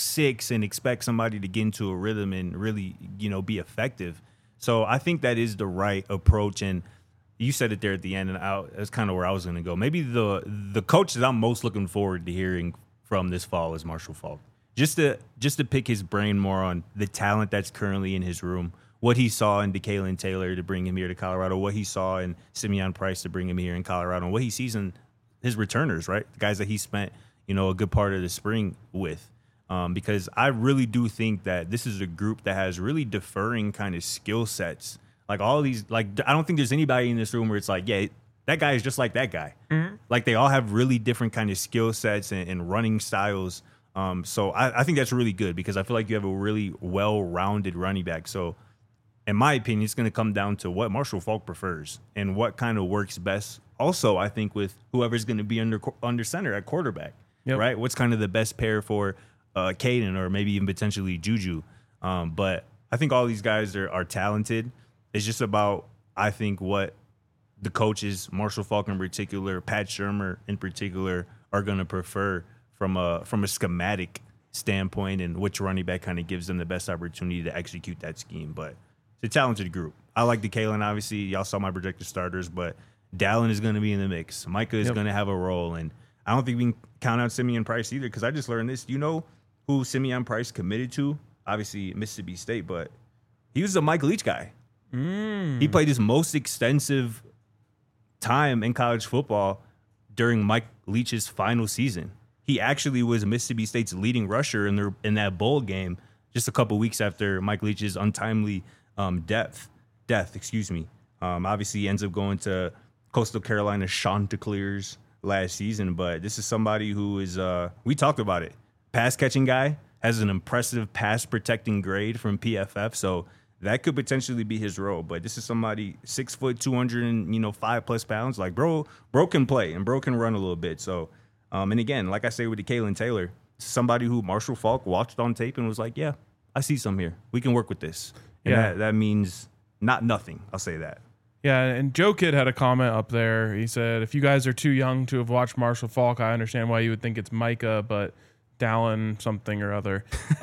6 and expect somebody to get into a rhythm and really, be effective. So I think that is the right approach. And you said it there at the end, and that's kind of where I was going to go. Maybe the coach that I'm most looking forward to hearing from this fall is Marshall Faulk. Just to pick his brain more on the talent that's currently in his room, what he saw in DeKalen Taylor to bring him here to Colorado, what he saw in Simeon Price to bring him here in Colorado, and what he sees in his returners, right? The guys that he spent, a good part of the spring with. Because I really do think that this is a group that has really differing kind of skill sets. Like all these, I don't think there's anybody in this room where it's like, yeah, that guy is just like that guy. Mm-hmm. Like they all have really different kind of skill sets and running styles. So I think that's really good because I feel like you have a really well-rounded running back. So in my opinion, it's going to come down to what Marshall Faulk prefers and what kind of works best. Also, I think with whoever's going to be under center at quarterback, right? What's kind of the best pair for Caden or maybe even potentially Juju. But I think all these guys are talented. It's just about, I think, what the coaches, Marshall Faulk in particular, Pat Shurmur in particular, are going to prefer from a schematic standpoint and which running back kind of gives them the best opportunity to execute that scheme. But it's a talented group. I like DeKalen, obviously. Y'all saw my projected starters, but Dallin is going to be in the mix. Micah is going to have a role. And I don't think we can count out Simeon Price either because I just learned this. You know who Simeon Price committed to? Obviously, Mississippi State, but he was a Mike Leach guy. He played his most extensive time in college football during Mike Leach's final season. He actually was Mississippi State's leading rusher in that bowl game just a couple weeks after Mike Leach's untimely death. Obviously, he ends up going to Coastal Carolina Chanticleers last season, but this is somebody who is, we talked about it, pass catching guy, has an impressive pass protecting grade from PFF, so that could potentially be his role. But this is somebody 6 foot, 205+ pounds. Like bro can play and bro can run a little bit. So, and again, like I say with DeKalen Taylor, somebody who Marshall Faulk watched on tape and was like, yeah, I see some here. We can work with this. And that means not nothing. I'll say that. Yeah, and Joe Kidd had a comment up there. He said, if you guys are too young to have watched Marshall Faulk, I understand why you would think it's Micah, but Dallin something or other.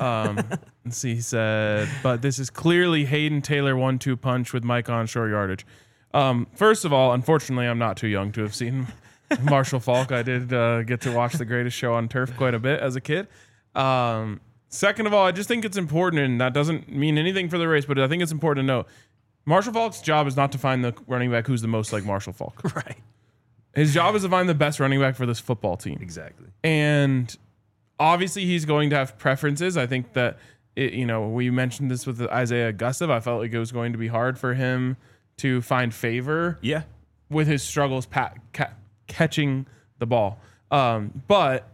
Let's see, he said, but this is clearly Hayden Taylor 1-2 punch with Micah on short yardage. First of all, unfortunately, I'm not too young to have seen Marshall Faulk. I did get to watch The Greatest Show on Turf quite a bit as a kid. Second of all, I just think it's important, and that doesn't mean anything for the race, but I think it's important to note, Marshall Faulk's job is not to find the running back who's the most like Marshall Faulk. Right. His job is to find the best running back for this football team. Exactly. And obviously he's going to have preferences. I think that, we mentioned this with Isaiah Gustav. I felt like it was going to be hard for him to find favor with his struggles catching the ball. But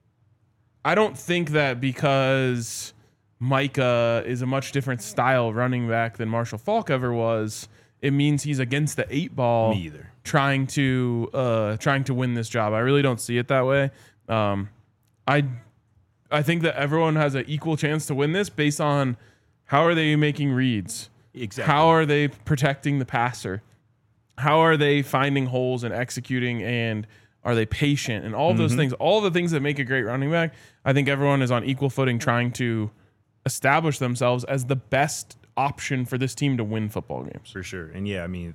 I don't think that because Micah is a much different style running back than Marshall Faulk ever was, it means he's against the 8 ball. Me either. Trying to win this job. I really don't see it that way. I think that everyone has an equal chance to win this based on how are they making reads? Exactly. How are they protecting the passer? How are they finding holes and executing, and are they patient? And all of those things, all the things that make a great running back, I think everyone is on equal footing trying to establish themselves as the best option for this team to win football games. For sure. And yeah, I mean,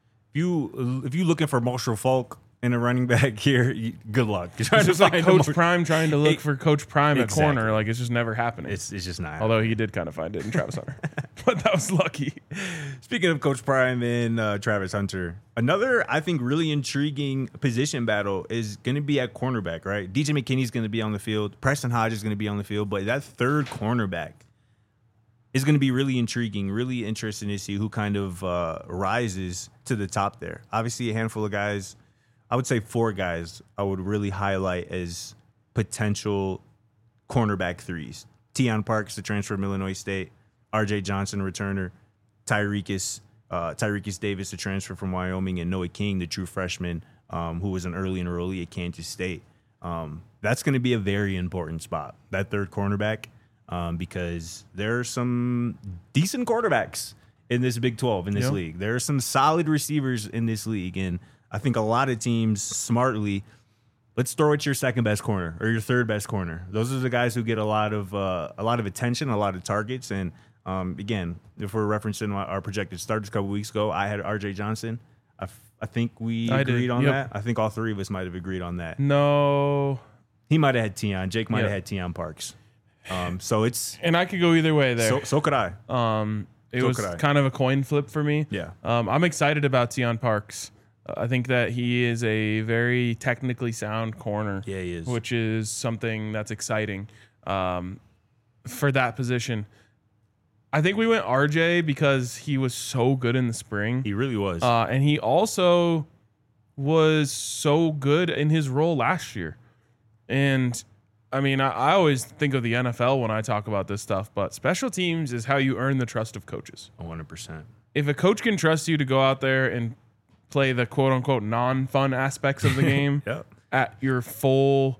if you looking for Marshall Falk in a running back here, good luck. It's just like Coach Prime trying to look for Coach Prime at Exactly. corner. Like, it's just never happening. It's just not. Although he did kind of find it in Travis Hunter. But that was lucky. Speaking of Coach Prime and Travis Hunter, another, I think, really intriguing position battle is going to be at cornerback, right? DJ McKinney's going to be on the field. Preston Hodge is going to be on the field. But that third cornerback is going to be really intriguing, really interesting to see who kind of rises to the top there. Obviously, a handful of guys, I would say 4 guys I would really highlight as potential cornerback threes. Teion Parks, the transfer from Illinois State. RJ Johnson, returner. Tyreekis Davis, the transfer from Wyoming. And Noah King, the true freshman, who was an early enrollee at Kansas State. That's going to be a very important spot, that third cornerback, because there are some decent quarterbacks in this Big 12, in this league. There are some solid receivers in this league, and I think a lot of teams smartly, let's throw at your second best corner or your third best corner. Those are the guys who get a lot of attention, a lot of targets. And again, if we're referencing our projected starters a couple weeks ago, I had RJ Johnson. I think we agreed on that. I think all 3 of us might have agreed on that. No. He might have had Teion. Jake might have had Teion Parks. So it's, and I could go either way there. so could I. It was kind of a coin flip for me. Yeah. I'm excited about Teion Parks. I think that he is a very technically sound corner. Yeah, he is. Which is something that's exciting for that position. I think we went RJ because he was so good in the spring. He really was. And he also was so good in his role last year. And I mean, I always think of the NFL when I talk about this stuff, but special teams is how you earn the trust of coaches. 100%. If a coach can trust you to go out there and play the quote unquote non-fun aspects of the game at your full,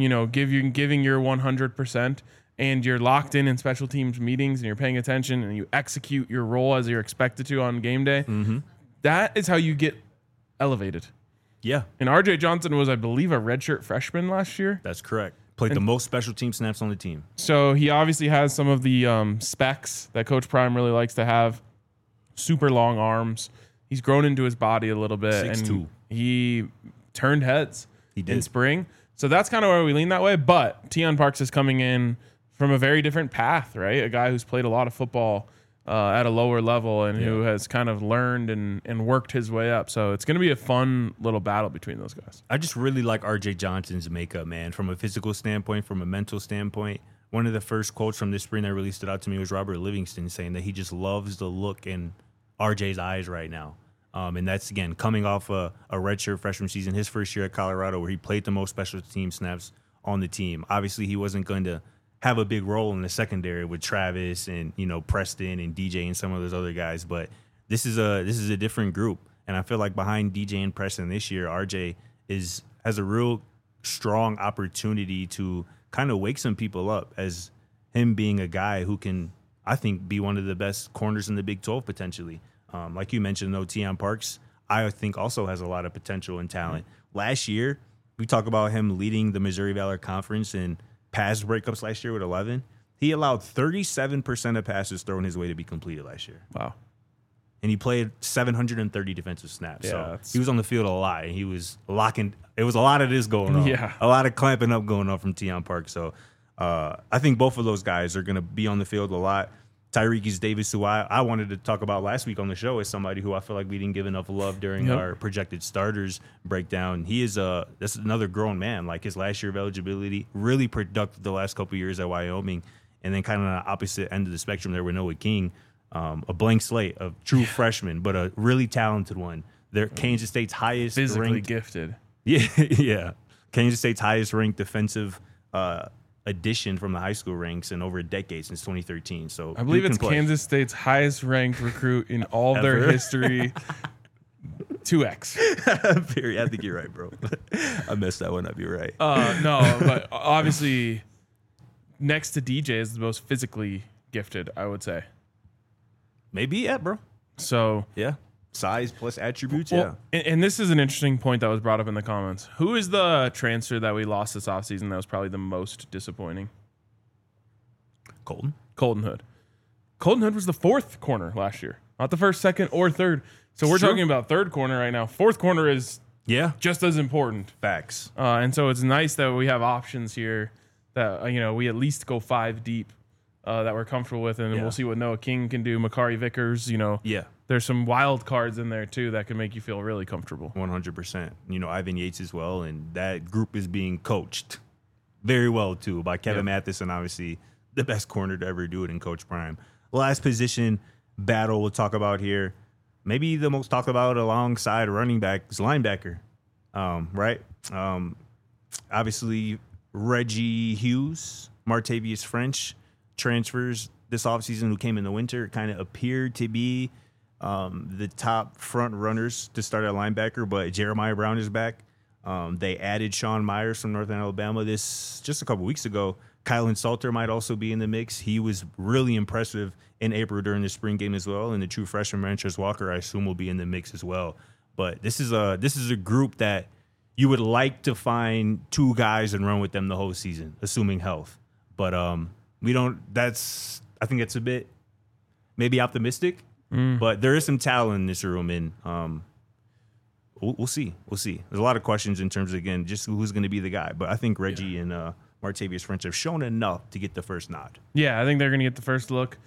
giving your 100%, and you're locked in special teams meetings and you're paying attention and you execute your role as you're expected to on game day, that is how you get elevated. Yeah. And RJ Johnson was, I believe, a redshirt freshman last year. That's correct. Played the most special team snaps on the team. So he obviously has some of the specs that Coach Prime really likes to have. Super long arms. He's grown into his body a little bit. 6'2". And he turned heads in spring. So that's kind of where we lean that way. But Teion Parks is coming in from a very different path, right? A guy who's played a lot of football at a lower level and who has kind of learned and worked his way up. So it's going to be a fun little battle between those guys. I just really like RJ Johnson's makeup, man, from a physical standpoint, from a mental standpoint. One of the first quotes from this spring that really stood out to me was Robert Livingston saying that he just loves the look in RJ's eyes right now. And that's, again, coming off a redshirt freshman season, his first year at Colorado, where he played the most special team snaps on the team. Obviously, he wasn't going to have a big role in the secondary with Travis and, Preston and DJ and some of those other guys. But this is a different group. And I feel like behind DJ and Preston this year, RJ has a real strong opportunity to kind of wake some people up as him being a guy who can, I think, be one of the best corners in the Big 12 potentially. Like you mentioned, though, Teion Parks, I think also has a lot of potential and talent. Last year, we talk about him leading the Missouri Valley Conference in pass breakups last year with 11. He allowed 37% of passes thrown his way to be completed last year. Wow. And he played 730 defensive snaps. Yeah, so he was on the field a lot. And he was locking. It was a lot of this going on. Yeah. A lot of clamping up going on from Teion Parks. So I think both of those guys are going to be on the field a lot. Tyreekis Davis, who I wanted to talk about last week on the show, is somebody who I feel like we didn't give enough love during our projected starters breakdown. He is that's another grown man. Like his last year of eligibility, really productive the last couple of years at Wyoming, and then kind of on the opposite end of the spectrum there with Noah King, a blank slate of true freshman, but a really talented one. They're Kansas State's highest physically ranked, gifted. Yeah. Kansas State's highest ranked defensive addition from the high school ranks in over a decade since 2013. So I believe dude it's can play. Kansas State's highest ranked recruit in all of their Ever? history. 2x. Period. I think you're right, bro. I messed that one up. You're right. No, but obviously, next to DJ is the most physically gifted, I would say. Maybe, yeah, bro. So, Yeah. Size plus attributes, well, and this is an interesting point that was brought up in the comments. Who is the transfer that we lost this offseason that was probably the most disappointing? Colton. Colton Hood. Colton Hood was the fourth corner last year, not the first, second, or third. So we're Sure. talking about third corner right now. Fourth corner is Yeah. just as important. Facts. And so it's nice that we have options here that, we at least go 5 deep that we're comfortable with. And Yeah. we'll see what Noah King can do. Makari Vickers, Yeah. there's some wild cards in there too that can make you feel really comfortable. 100%. Ivan Yates as well. And that group is being coached very well, too, by Kevin Matheson, obviously the best corner to ever do it in Coach Prime. Last position battle we'll talk about here. Maybe the most talked about alongside running back is linebacker, right? Obviously, Reggie Hughes, Martavius French transfers this offseason who came in the winter kind of appeared to be the top front runners to start at linebacker, but Jeremiah Brown is back. They added Sean Myers from Northern Alabama just a couple weeks ago. Kylan Salter might also be in the mix. He was really impressive in April during the spring game as well. And the true freshman Ranches Walker, I assume, will be in the mix as well. But this is a group that you would like to find 2 guys and run with them the whole season, assuming health. But we don't. I think it's a bit maybe optimistic. But there is some talent in this room, and we'll see. We'll see. There's a lot of questions in terms of, again, just who's going to be the guy. But I think Reggie and Martavius French have shown enough to get the first nod. Yeah, I think they're going to get the first look.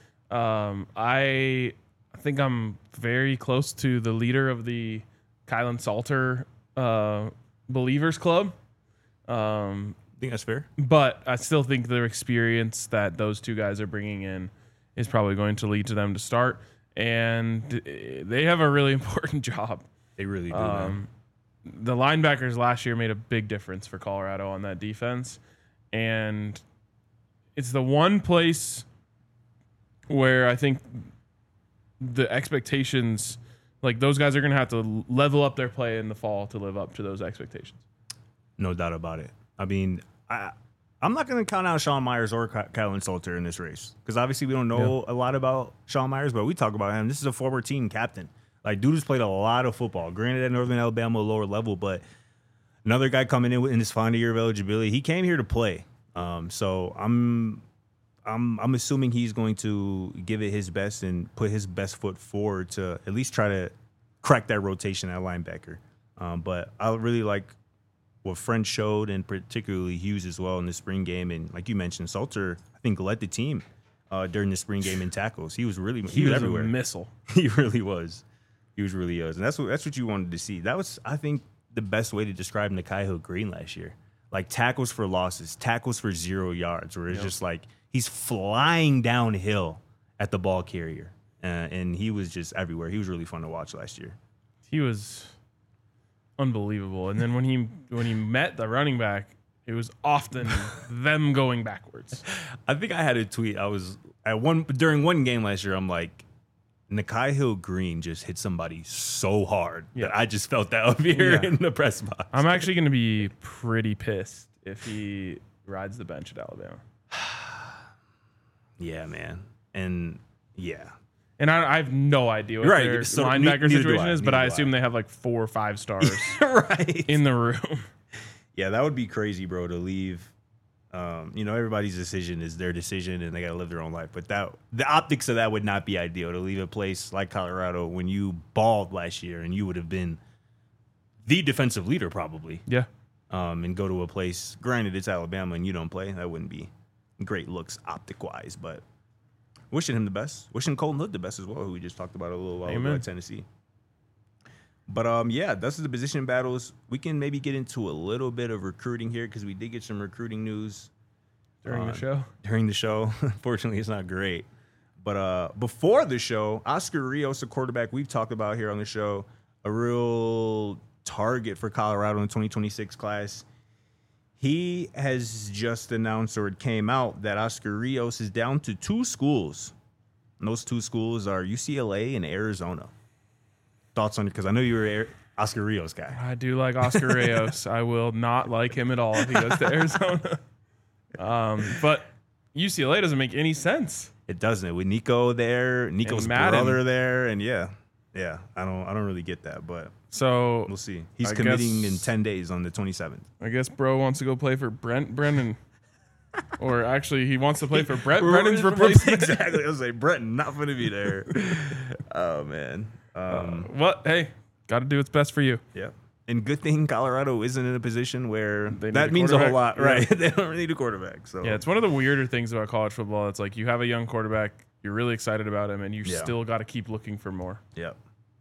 I think I'm very close to the leader of the Kylan Salter Believers Club. I think that's fair. But I still think their experience that those 2 guys are bringing in is probably going to lead to them to start. And they have a really important job. They really do. Man. The linebackers last year made a big difference for Colorado on that defense. And it's the one place where I think the expectations, like those guys are going to have to level up their play in the fall to live up to those expectations. No doubt about it. I mean, I'm not going to count out Sean Myers or Kylan Salter in this race because obviously we don't know a lot about Sean Myers, but we talk about him. This is a former team captain. Like, dude has played a lot of football. Granted, at Northern Alabama, lower level, but another guy coming in his final year of eligibility. He came here to play. So I'm assuming he's going to give it his best and put his best foot forward to at least try to crack that rotation at linebacker. But I really like what French showed, and particularly Hughes as well in the spring game. And like you mentioned, Salter, I think, led the team during the spring game in tackles. He was everywhere. A missile. He really was. He was really was. And that's what you wanted to see. That was, I think, the best way to describe Nakai Hill Green last year. Like tackles for losses, tackles for 0 yards, where it's just like he's flying downhill at the ball carrier. And he was just everywhere. He was really fun to watch last year. He was unbelievable. And then when he met the running back, it was often them going backwards. I think I had a tweet. I was during one game last year. I'm like, Nakai Hill Green just hit somebody so hard that I just felt that up here in the press box. I'm actually going to be pretty pissed if he rides the bench at Alabama. Yeah, man. And And I have no idea what their linebacker situation is, but I assume they have like 4 or 5 stars right in the room. Yeah, that would be crazy, bro, to leave. Everybody's decision is their decision, and they got to live their own life. But the optics of that would not be ideal, to leave a place like Colorado when you balled last year and you would have been the defensive leader probably. Yeah. And go to a place, granted it's Alabama and you don't play. That wouldn't be great looks optic-wise, but wishing him the best. Wishing Colton Hood the best as well, who we just talked about a little while ago at Tennessee. But, that's the position battles. We can maybe get into a little bit of recruiting here because we did get some recruiting news. During the show? During the show. Unfortunately, it's not great. But before the show, Oscar Rios, a quarterback we've talked about here on the show, a real target for Colorado in the 2026 class. He has just announced, or it came out, that Oscar Rios is down to 2 schools. And those 2 schools are UCLA and Arizona. Thoughts on it? Because I know you're Oscar Rios guy. I do like Oscar Rios. I will not like him at all if he goes to Arizona. But UCLA doesn't make any sense. It doesn't. With Nico there, Nico's brother there, and yeah, I don't really get that, but so we'll see. He's committing in 10 days on the 27th. I guess bro wants to go play for Brennan. Or actually, he wants to play for Brennan's replacement. Exactly. I was like, Brennan, not going to be there. Oh, man. What? Hey, got to do what's best for you. Yeah. And good thing Colorado isn't in a position where that means a a whole lot, yeah. right? They don't really need a quarterback. So yeah, it's one of the weirder things about college football. It's like you have a young quarterback, you're really excited about him, and you still got to keep looking for more. Yep.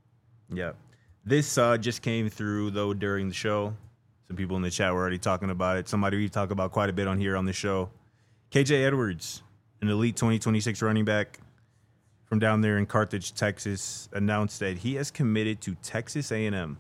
This just came through, though, during the show. Some people in the chat were already talking about it. Somebody we talk about quite a bit on here on the show. KJ Edwards, an elite 2026 running back from down there in Carthage, Texas, announced that he has committed to Texas A&M.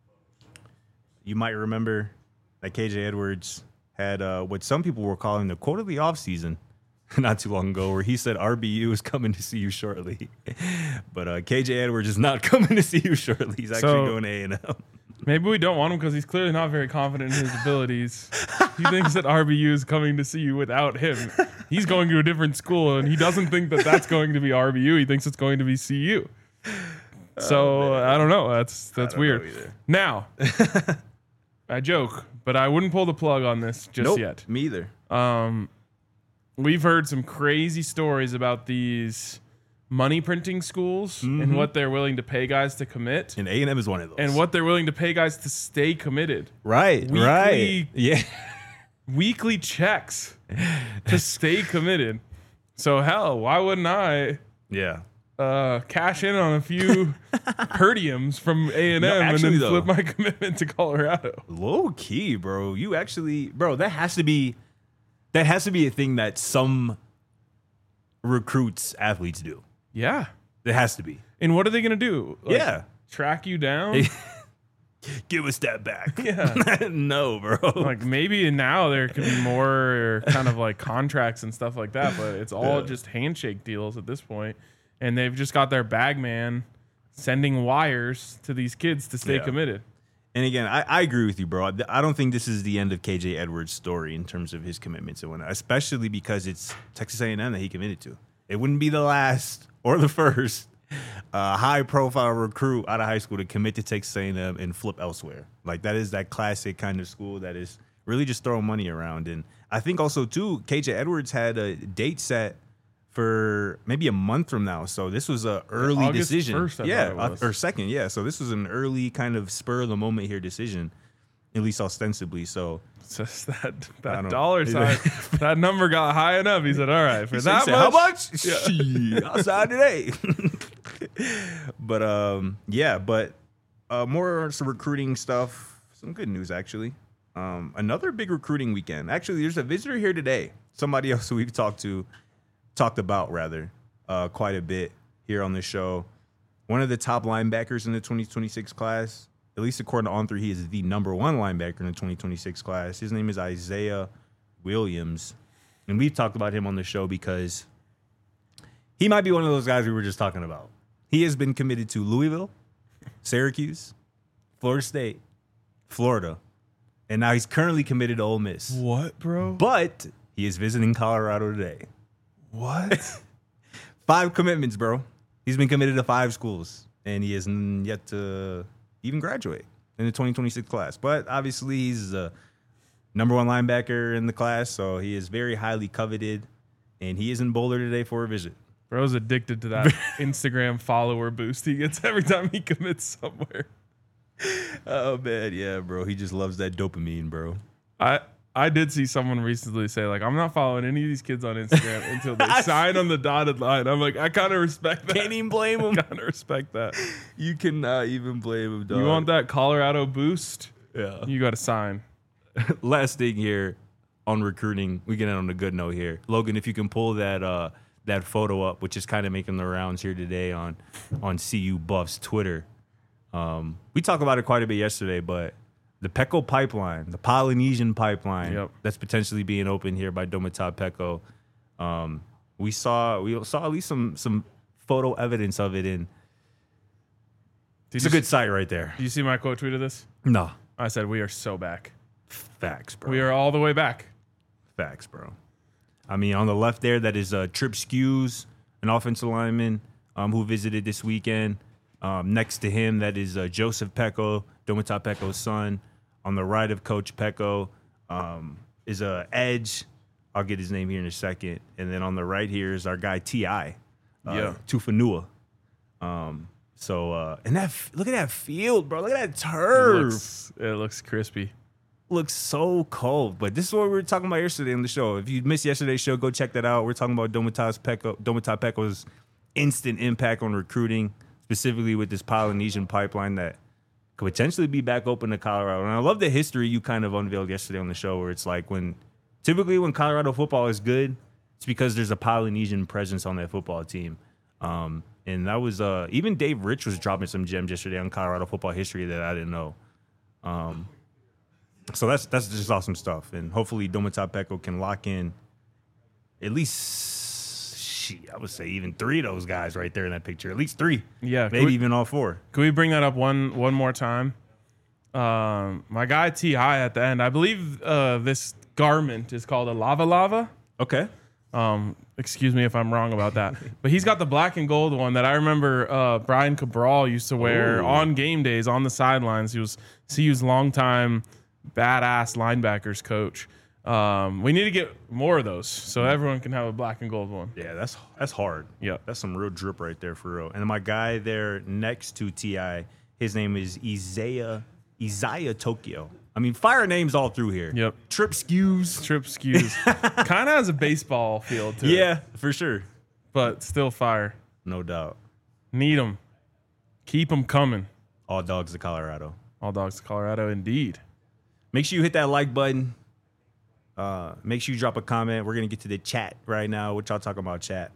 You might remember that KJ Edwards had what some people were calling the quote of the offseason not too long ago, where he said RBU is coming to see you shortly. But KJ Edwards is not coming to see you shortly. He's actually going to A&M. Maybe we don't want him because he's clearly not very confident in his abilities. He thinks that RBU is coming to see you without him. He's going to a different school, and he doesn't think that that's going to be RBU. He thinks it's going to be CU. So I don't know. That's weird. Now, I joke, but I wouldn't pull the plug on this just yet. Me either. We've heard some crazy stories about these money printing schools and what they're willing to pay guys to commit. And A&M is one of those. And what they're willing to pay guys to stay committed. Right. Yeah. Weekly checks to stay committed. So hell, why wouldn't I cash in on a few herdiums from A&M and then flip my commitment to Colorado? Low key, bro. You actually, bro, that has to be a thing that some recruits athletes do. Yeah. It has to be. And what are they going to do? Track you down? Give us that back. Yeah. No, bro. Like maybe now there could be more kind of like contracts and stuff like that, but it's all just handshake deals at this point. And they've just got their bag man sending wires to these kids to stay committed. And again, I agree with you, bro. I don't think this is the end of KJ Edwards' story in terms of his commitments and whatnot, especially because it's Texas A&M that he committed to. It wouldn't be the last or the first high-profile recruit out of high school to commit to Texas A&M and flip elsewhere. Like, that is that classic kind of school that is really just throwing money around. And I think also, too, KJ Edwards had a date set for maybe a month from now. So this was an early August decision. 1st, I thought it was. Or 2nd, yeah. So this was an early kind of spur-of-the-moment here decision, at least ostensibly. So it's just that dollar sign, that number got high enough. He said, all right, for that much? How much? Yeah. Outside today. But more some recruiting stuff. Some good news, actually. Another big recruiting weekend. Actually, there's a visitor here today. Somebody else who we've talked about quite a bit here on the show. One of the top linebackers in the 2026 class, at least according to On3, he is the number 1 linebacker in the 2026 class. His name is Isaiah Williams. And we've talked about him on the show because he might be one of those guys we were just talking about. He has been committed to Louisville, Syracuse, Florida State, Florida, and now he's currently committed to Ole Miss. What, bro? But he is visiting Colorado today. What? 5 commitments, bro. He's been committed to 5 schools, and he has yet to even graduate in the 2026 class. But obviously, he's the number 1 linebacker in the class, so he is very highly coveted, and he is in Boulder today for a visit. Bro's addicted to that Instagram follower boost he gets every time he commits somewhere. Oh, man, yeah, bro. He just loves that dopamine, bro. I did see someone recently say, like, I'm not following any of these kids on Instagram until they sign on the dotted line. I'm like, I kind of respect that. Can't even blame him. I kind of respect that. You cannot even blame him, dog. You want that Colorado boost? Yeah. You got to sign. Last thing here on recruiting, we get on a good note here. Logan, if you can pull that photo up, which is kind of making the rounds here today on CU Buff's Twitter. We talked about it quite a bit yesterday, but the Pecco pipeline, the Polynesian pipeline Yep. that's potentially being opened here by Domata Pecco. We saw at least some photo evidence of it, and it's a good site right there. Do you see my quote tweet of this? No, I said, we are so back. facts, bro. We are all the way back. Facts, bro. I mean, on the left there, that is Trip Skews, an offensive lineman who visited this weekend. Next to him, that is Joseph Pecco, Domata Pecco's son. On the right of Coach Pecco is Edge. I'll get his name here in a second. And then on the right here is our guy T.I. Tufanua. And look at that field, bro. Look at that turf. It looks crispy. Looks so cold. But this is what we were talking about yesterday on the show. If you missed yesterday's show, go check that out. We're talking about Domata Pecco's instant impact on recruiting, specifically with this Polynesian pipeline that could potentially be back open to Colorado. And I love the history you kind of unveiled yesterday on the show, where it's like typically when Colorado football is good, it's because there's a Polynesian presence on that football team. And that was even Dave Rich was dropping some gems yesterday on Colorado football history that I didn't know. So that's just awesome stuff. And hopefully Domata Pecco can lock in at least, I would say even 3 of those guys right there in that picture. At least 3. Yeah. Maybe even all 4. Can we bring that up one more time? My guy T.I. at the end, I believe this garment is called a lava. Okay. Excuse me if I'm wrong about that. But he's got the black and gold one that I remember Brian Cabral used to wear on game days on the sidelines. He was CU's longtime badass linebackers coach. We need to get more of those so everyone can have a black and gold one. Yeah, that's hard. Yeah. That's some real drip right there for real. And my guy there next to T.I., his name is Isaiah Tokyo. I mean, fire names all through here. Yep. Trip Skews. Kind of has a baseball feel to it. Yeah, for sure. But still fire. No doubt. Need them. Keep them coming. All dogs to Colorado. All dogs to Colorado, indeed. Make sure you hit that like button. Make sure you drop a comment. We're going to get to the chat right now. What y'all talking about, chat?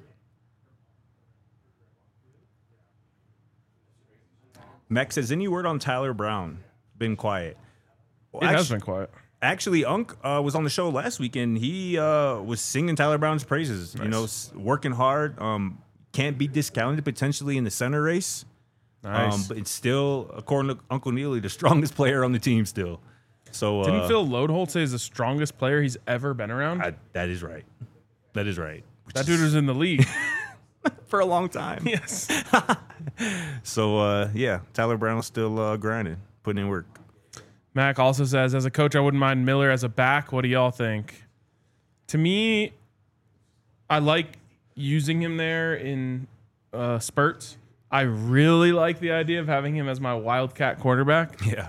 Max says, any word on Tyler Brown? Been quiet. It has been quiet. Actually, Unk was on the show last week, and he was singing Tyler Brown's praises. Nice. You know, working hard. Can't be discounted potentially in the center race. Nice. But it's still, according to Uncle Neely, the strongest player on the team still. So Didn't Phil Lodeholt say he's the strongest player he's ever been around? that is right. That is right. That dude was in the league. For a long time. Yes. So, Tyler Brown's still grinding, putting in work. Mac also says, as a coach, I wouldn't mind Miller as a back. What do y'all think? To me, I like using him there in spurts. I really like the idea of having him as my Wildcat quarterback. Yeah.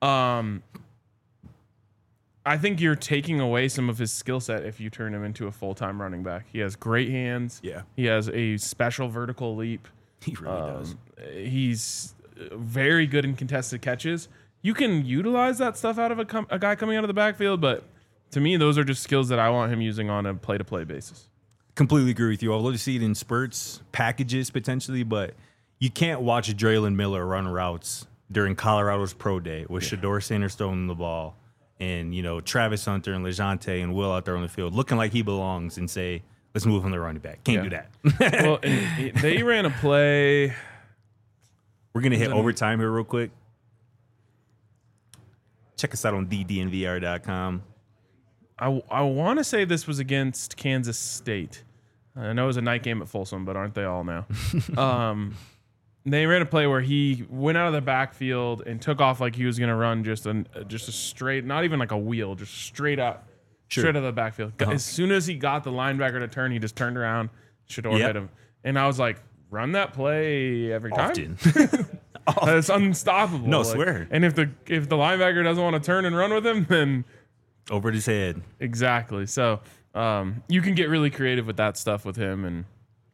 I think you're taking away some of his skill set if you turn him into a full-time running back. He has great hands. Yeah. He has a special vertical leap. He really does. He's very good in contested catches. You can utilize that stuff out of a guy coming out of the backfield, but to me, those are just skills that I want him using on a play-to-play basis. Completely agree with you. I'd love to see it in spurts, packages potentially, but you can't watch Draylen Miller run routes during Colorado's pro day with Shedeur Sanders throwing the ball and, you know, Travis Hunter and LeJounte and Will out there on the field looking like he belongs and say, let's move on the running back. Can't do that. Well, and they ran a play. We're going to hit overtime here real quick. Check us out on thednvr.com. I want to say this was against Kansas State. I know it was a night game at Folsom, but aren't they all now? They ran a play where he went out of the backfield and took off like he was going to run just a straight, not even like a wheel, just straight up, straight out of the backfield. As soon as he got the linebacker to turn, he just turned around. Shedeur hit him. And I was like, run that play every time. Often. It's unstoppable. No, swear. And if the linebacker doesn't want to turn and run with him, then over his head. exactly. So you can get really creative with that stuff with him, and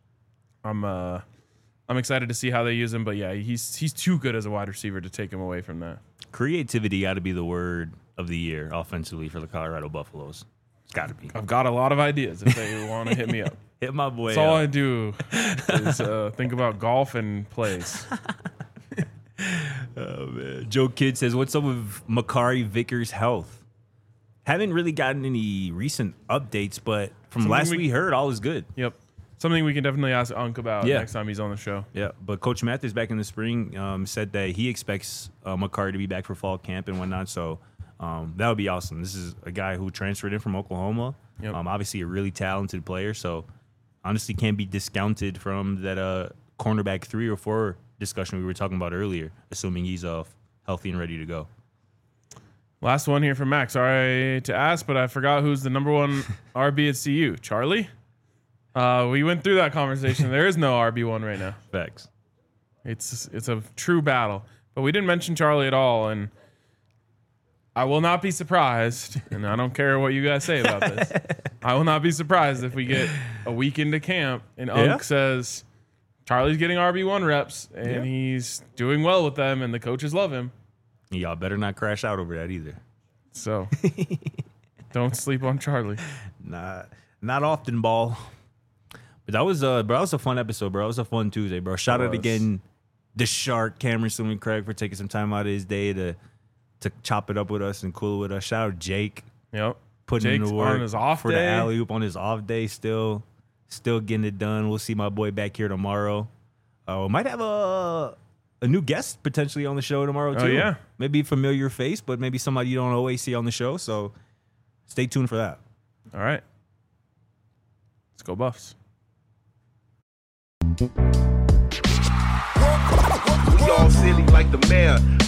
I'm excited to see how they use him. But yeah, he's too good as a wide receiver to take him away from that. Creativity got to be the word of the year offensively for the Colorado Buffaloes. It's got to be. I've got a lot of ideas if they want to hit me up. Hit my boy. That's all I do is think about golf and plays. Oh man. Joe Kidd says, what's up with Makari Vickers' health? Haven't really gotten any recent updates, but from Something last we- we heard, all is good. Yep. Something we can definitely ask Unk about Yeah. next time he's on the show. Yeah, but Coach Mathis back in the spring said that he expects Makari to be back for fall camp and whatnot. So that would be awesome. This is a guy who transferred in from Oklahoma. Yep. Obviously, a really talented player. So honestly, can't be discounted from that cornerback 3 or 4 discussion we were talking about earlier, assuming he's healthy and ready to go. Last one here from Max. Sorry to ask, but I forgot who's the number 1 RB at CU. Charlie? We went through that conversation. There is no RB1 right now. Facts. It's a true battle. But we didn't mention Charlie at all, and I will not be surprised, and I don't care what you guys say about this. I will not be surprised if we get a week into camp and Unk says Charlie's getting RB1 reps and he's doing well with them and the coaches love him. Y'all better not crash out over that either. So don't sleep on Charlie. Nah, not often, ball. But that was bro, that was a fun episode, bro. It was a fun Tuesday, bro. Shout out again the Shark, Cameron Swimming Craig, for taking some time out of his day to chop it up with us and cool with us. Shout out Jake. Yep. Putting in Jake's the work on his off for day. the alley oop on his off day. Still getting it done. We'll see my boy back here tomorrow. Might have a new guest potentially on the show tomorrow too. Oh, yeah. Maybe a familiar face, but maybe somebody you don't always see on the show. So stay tuned for that. All right. Let's go Buffs. We all silly like the mayor.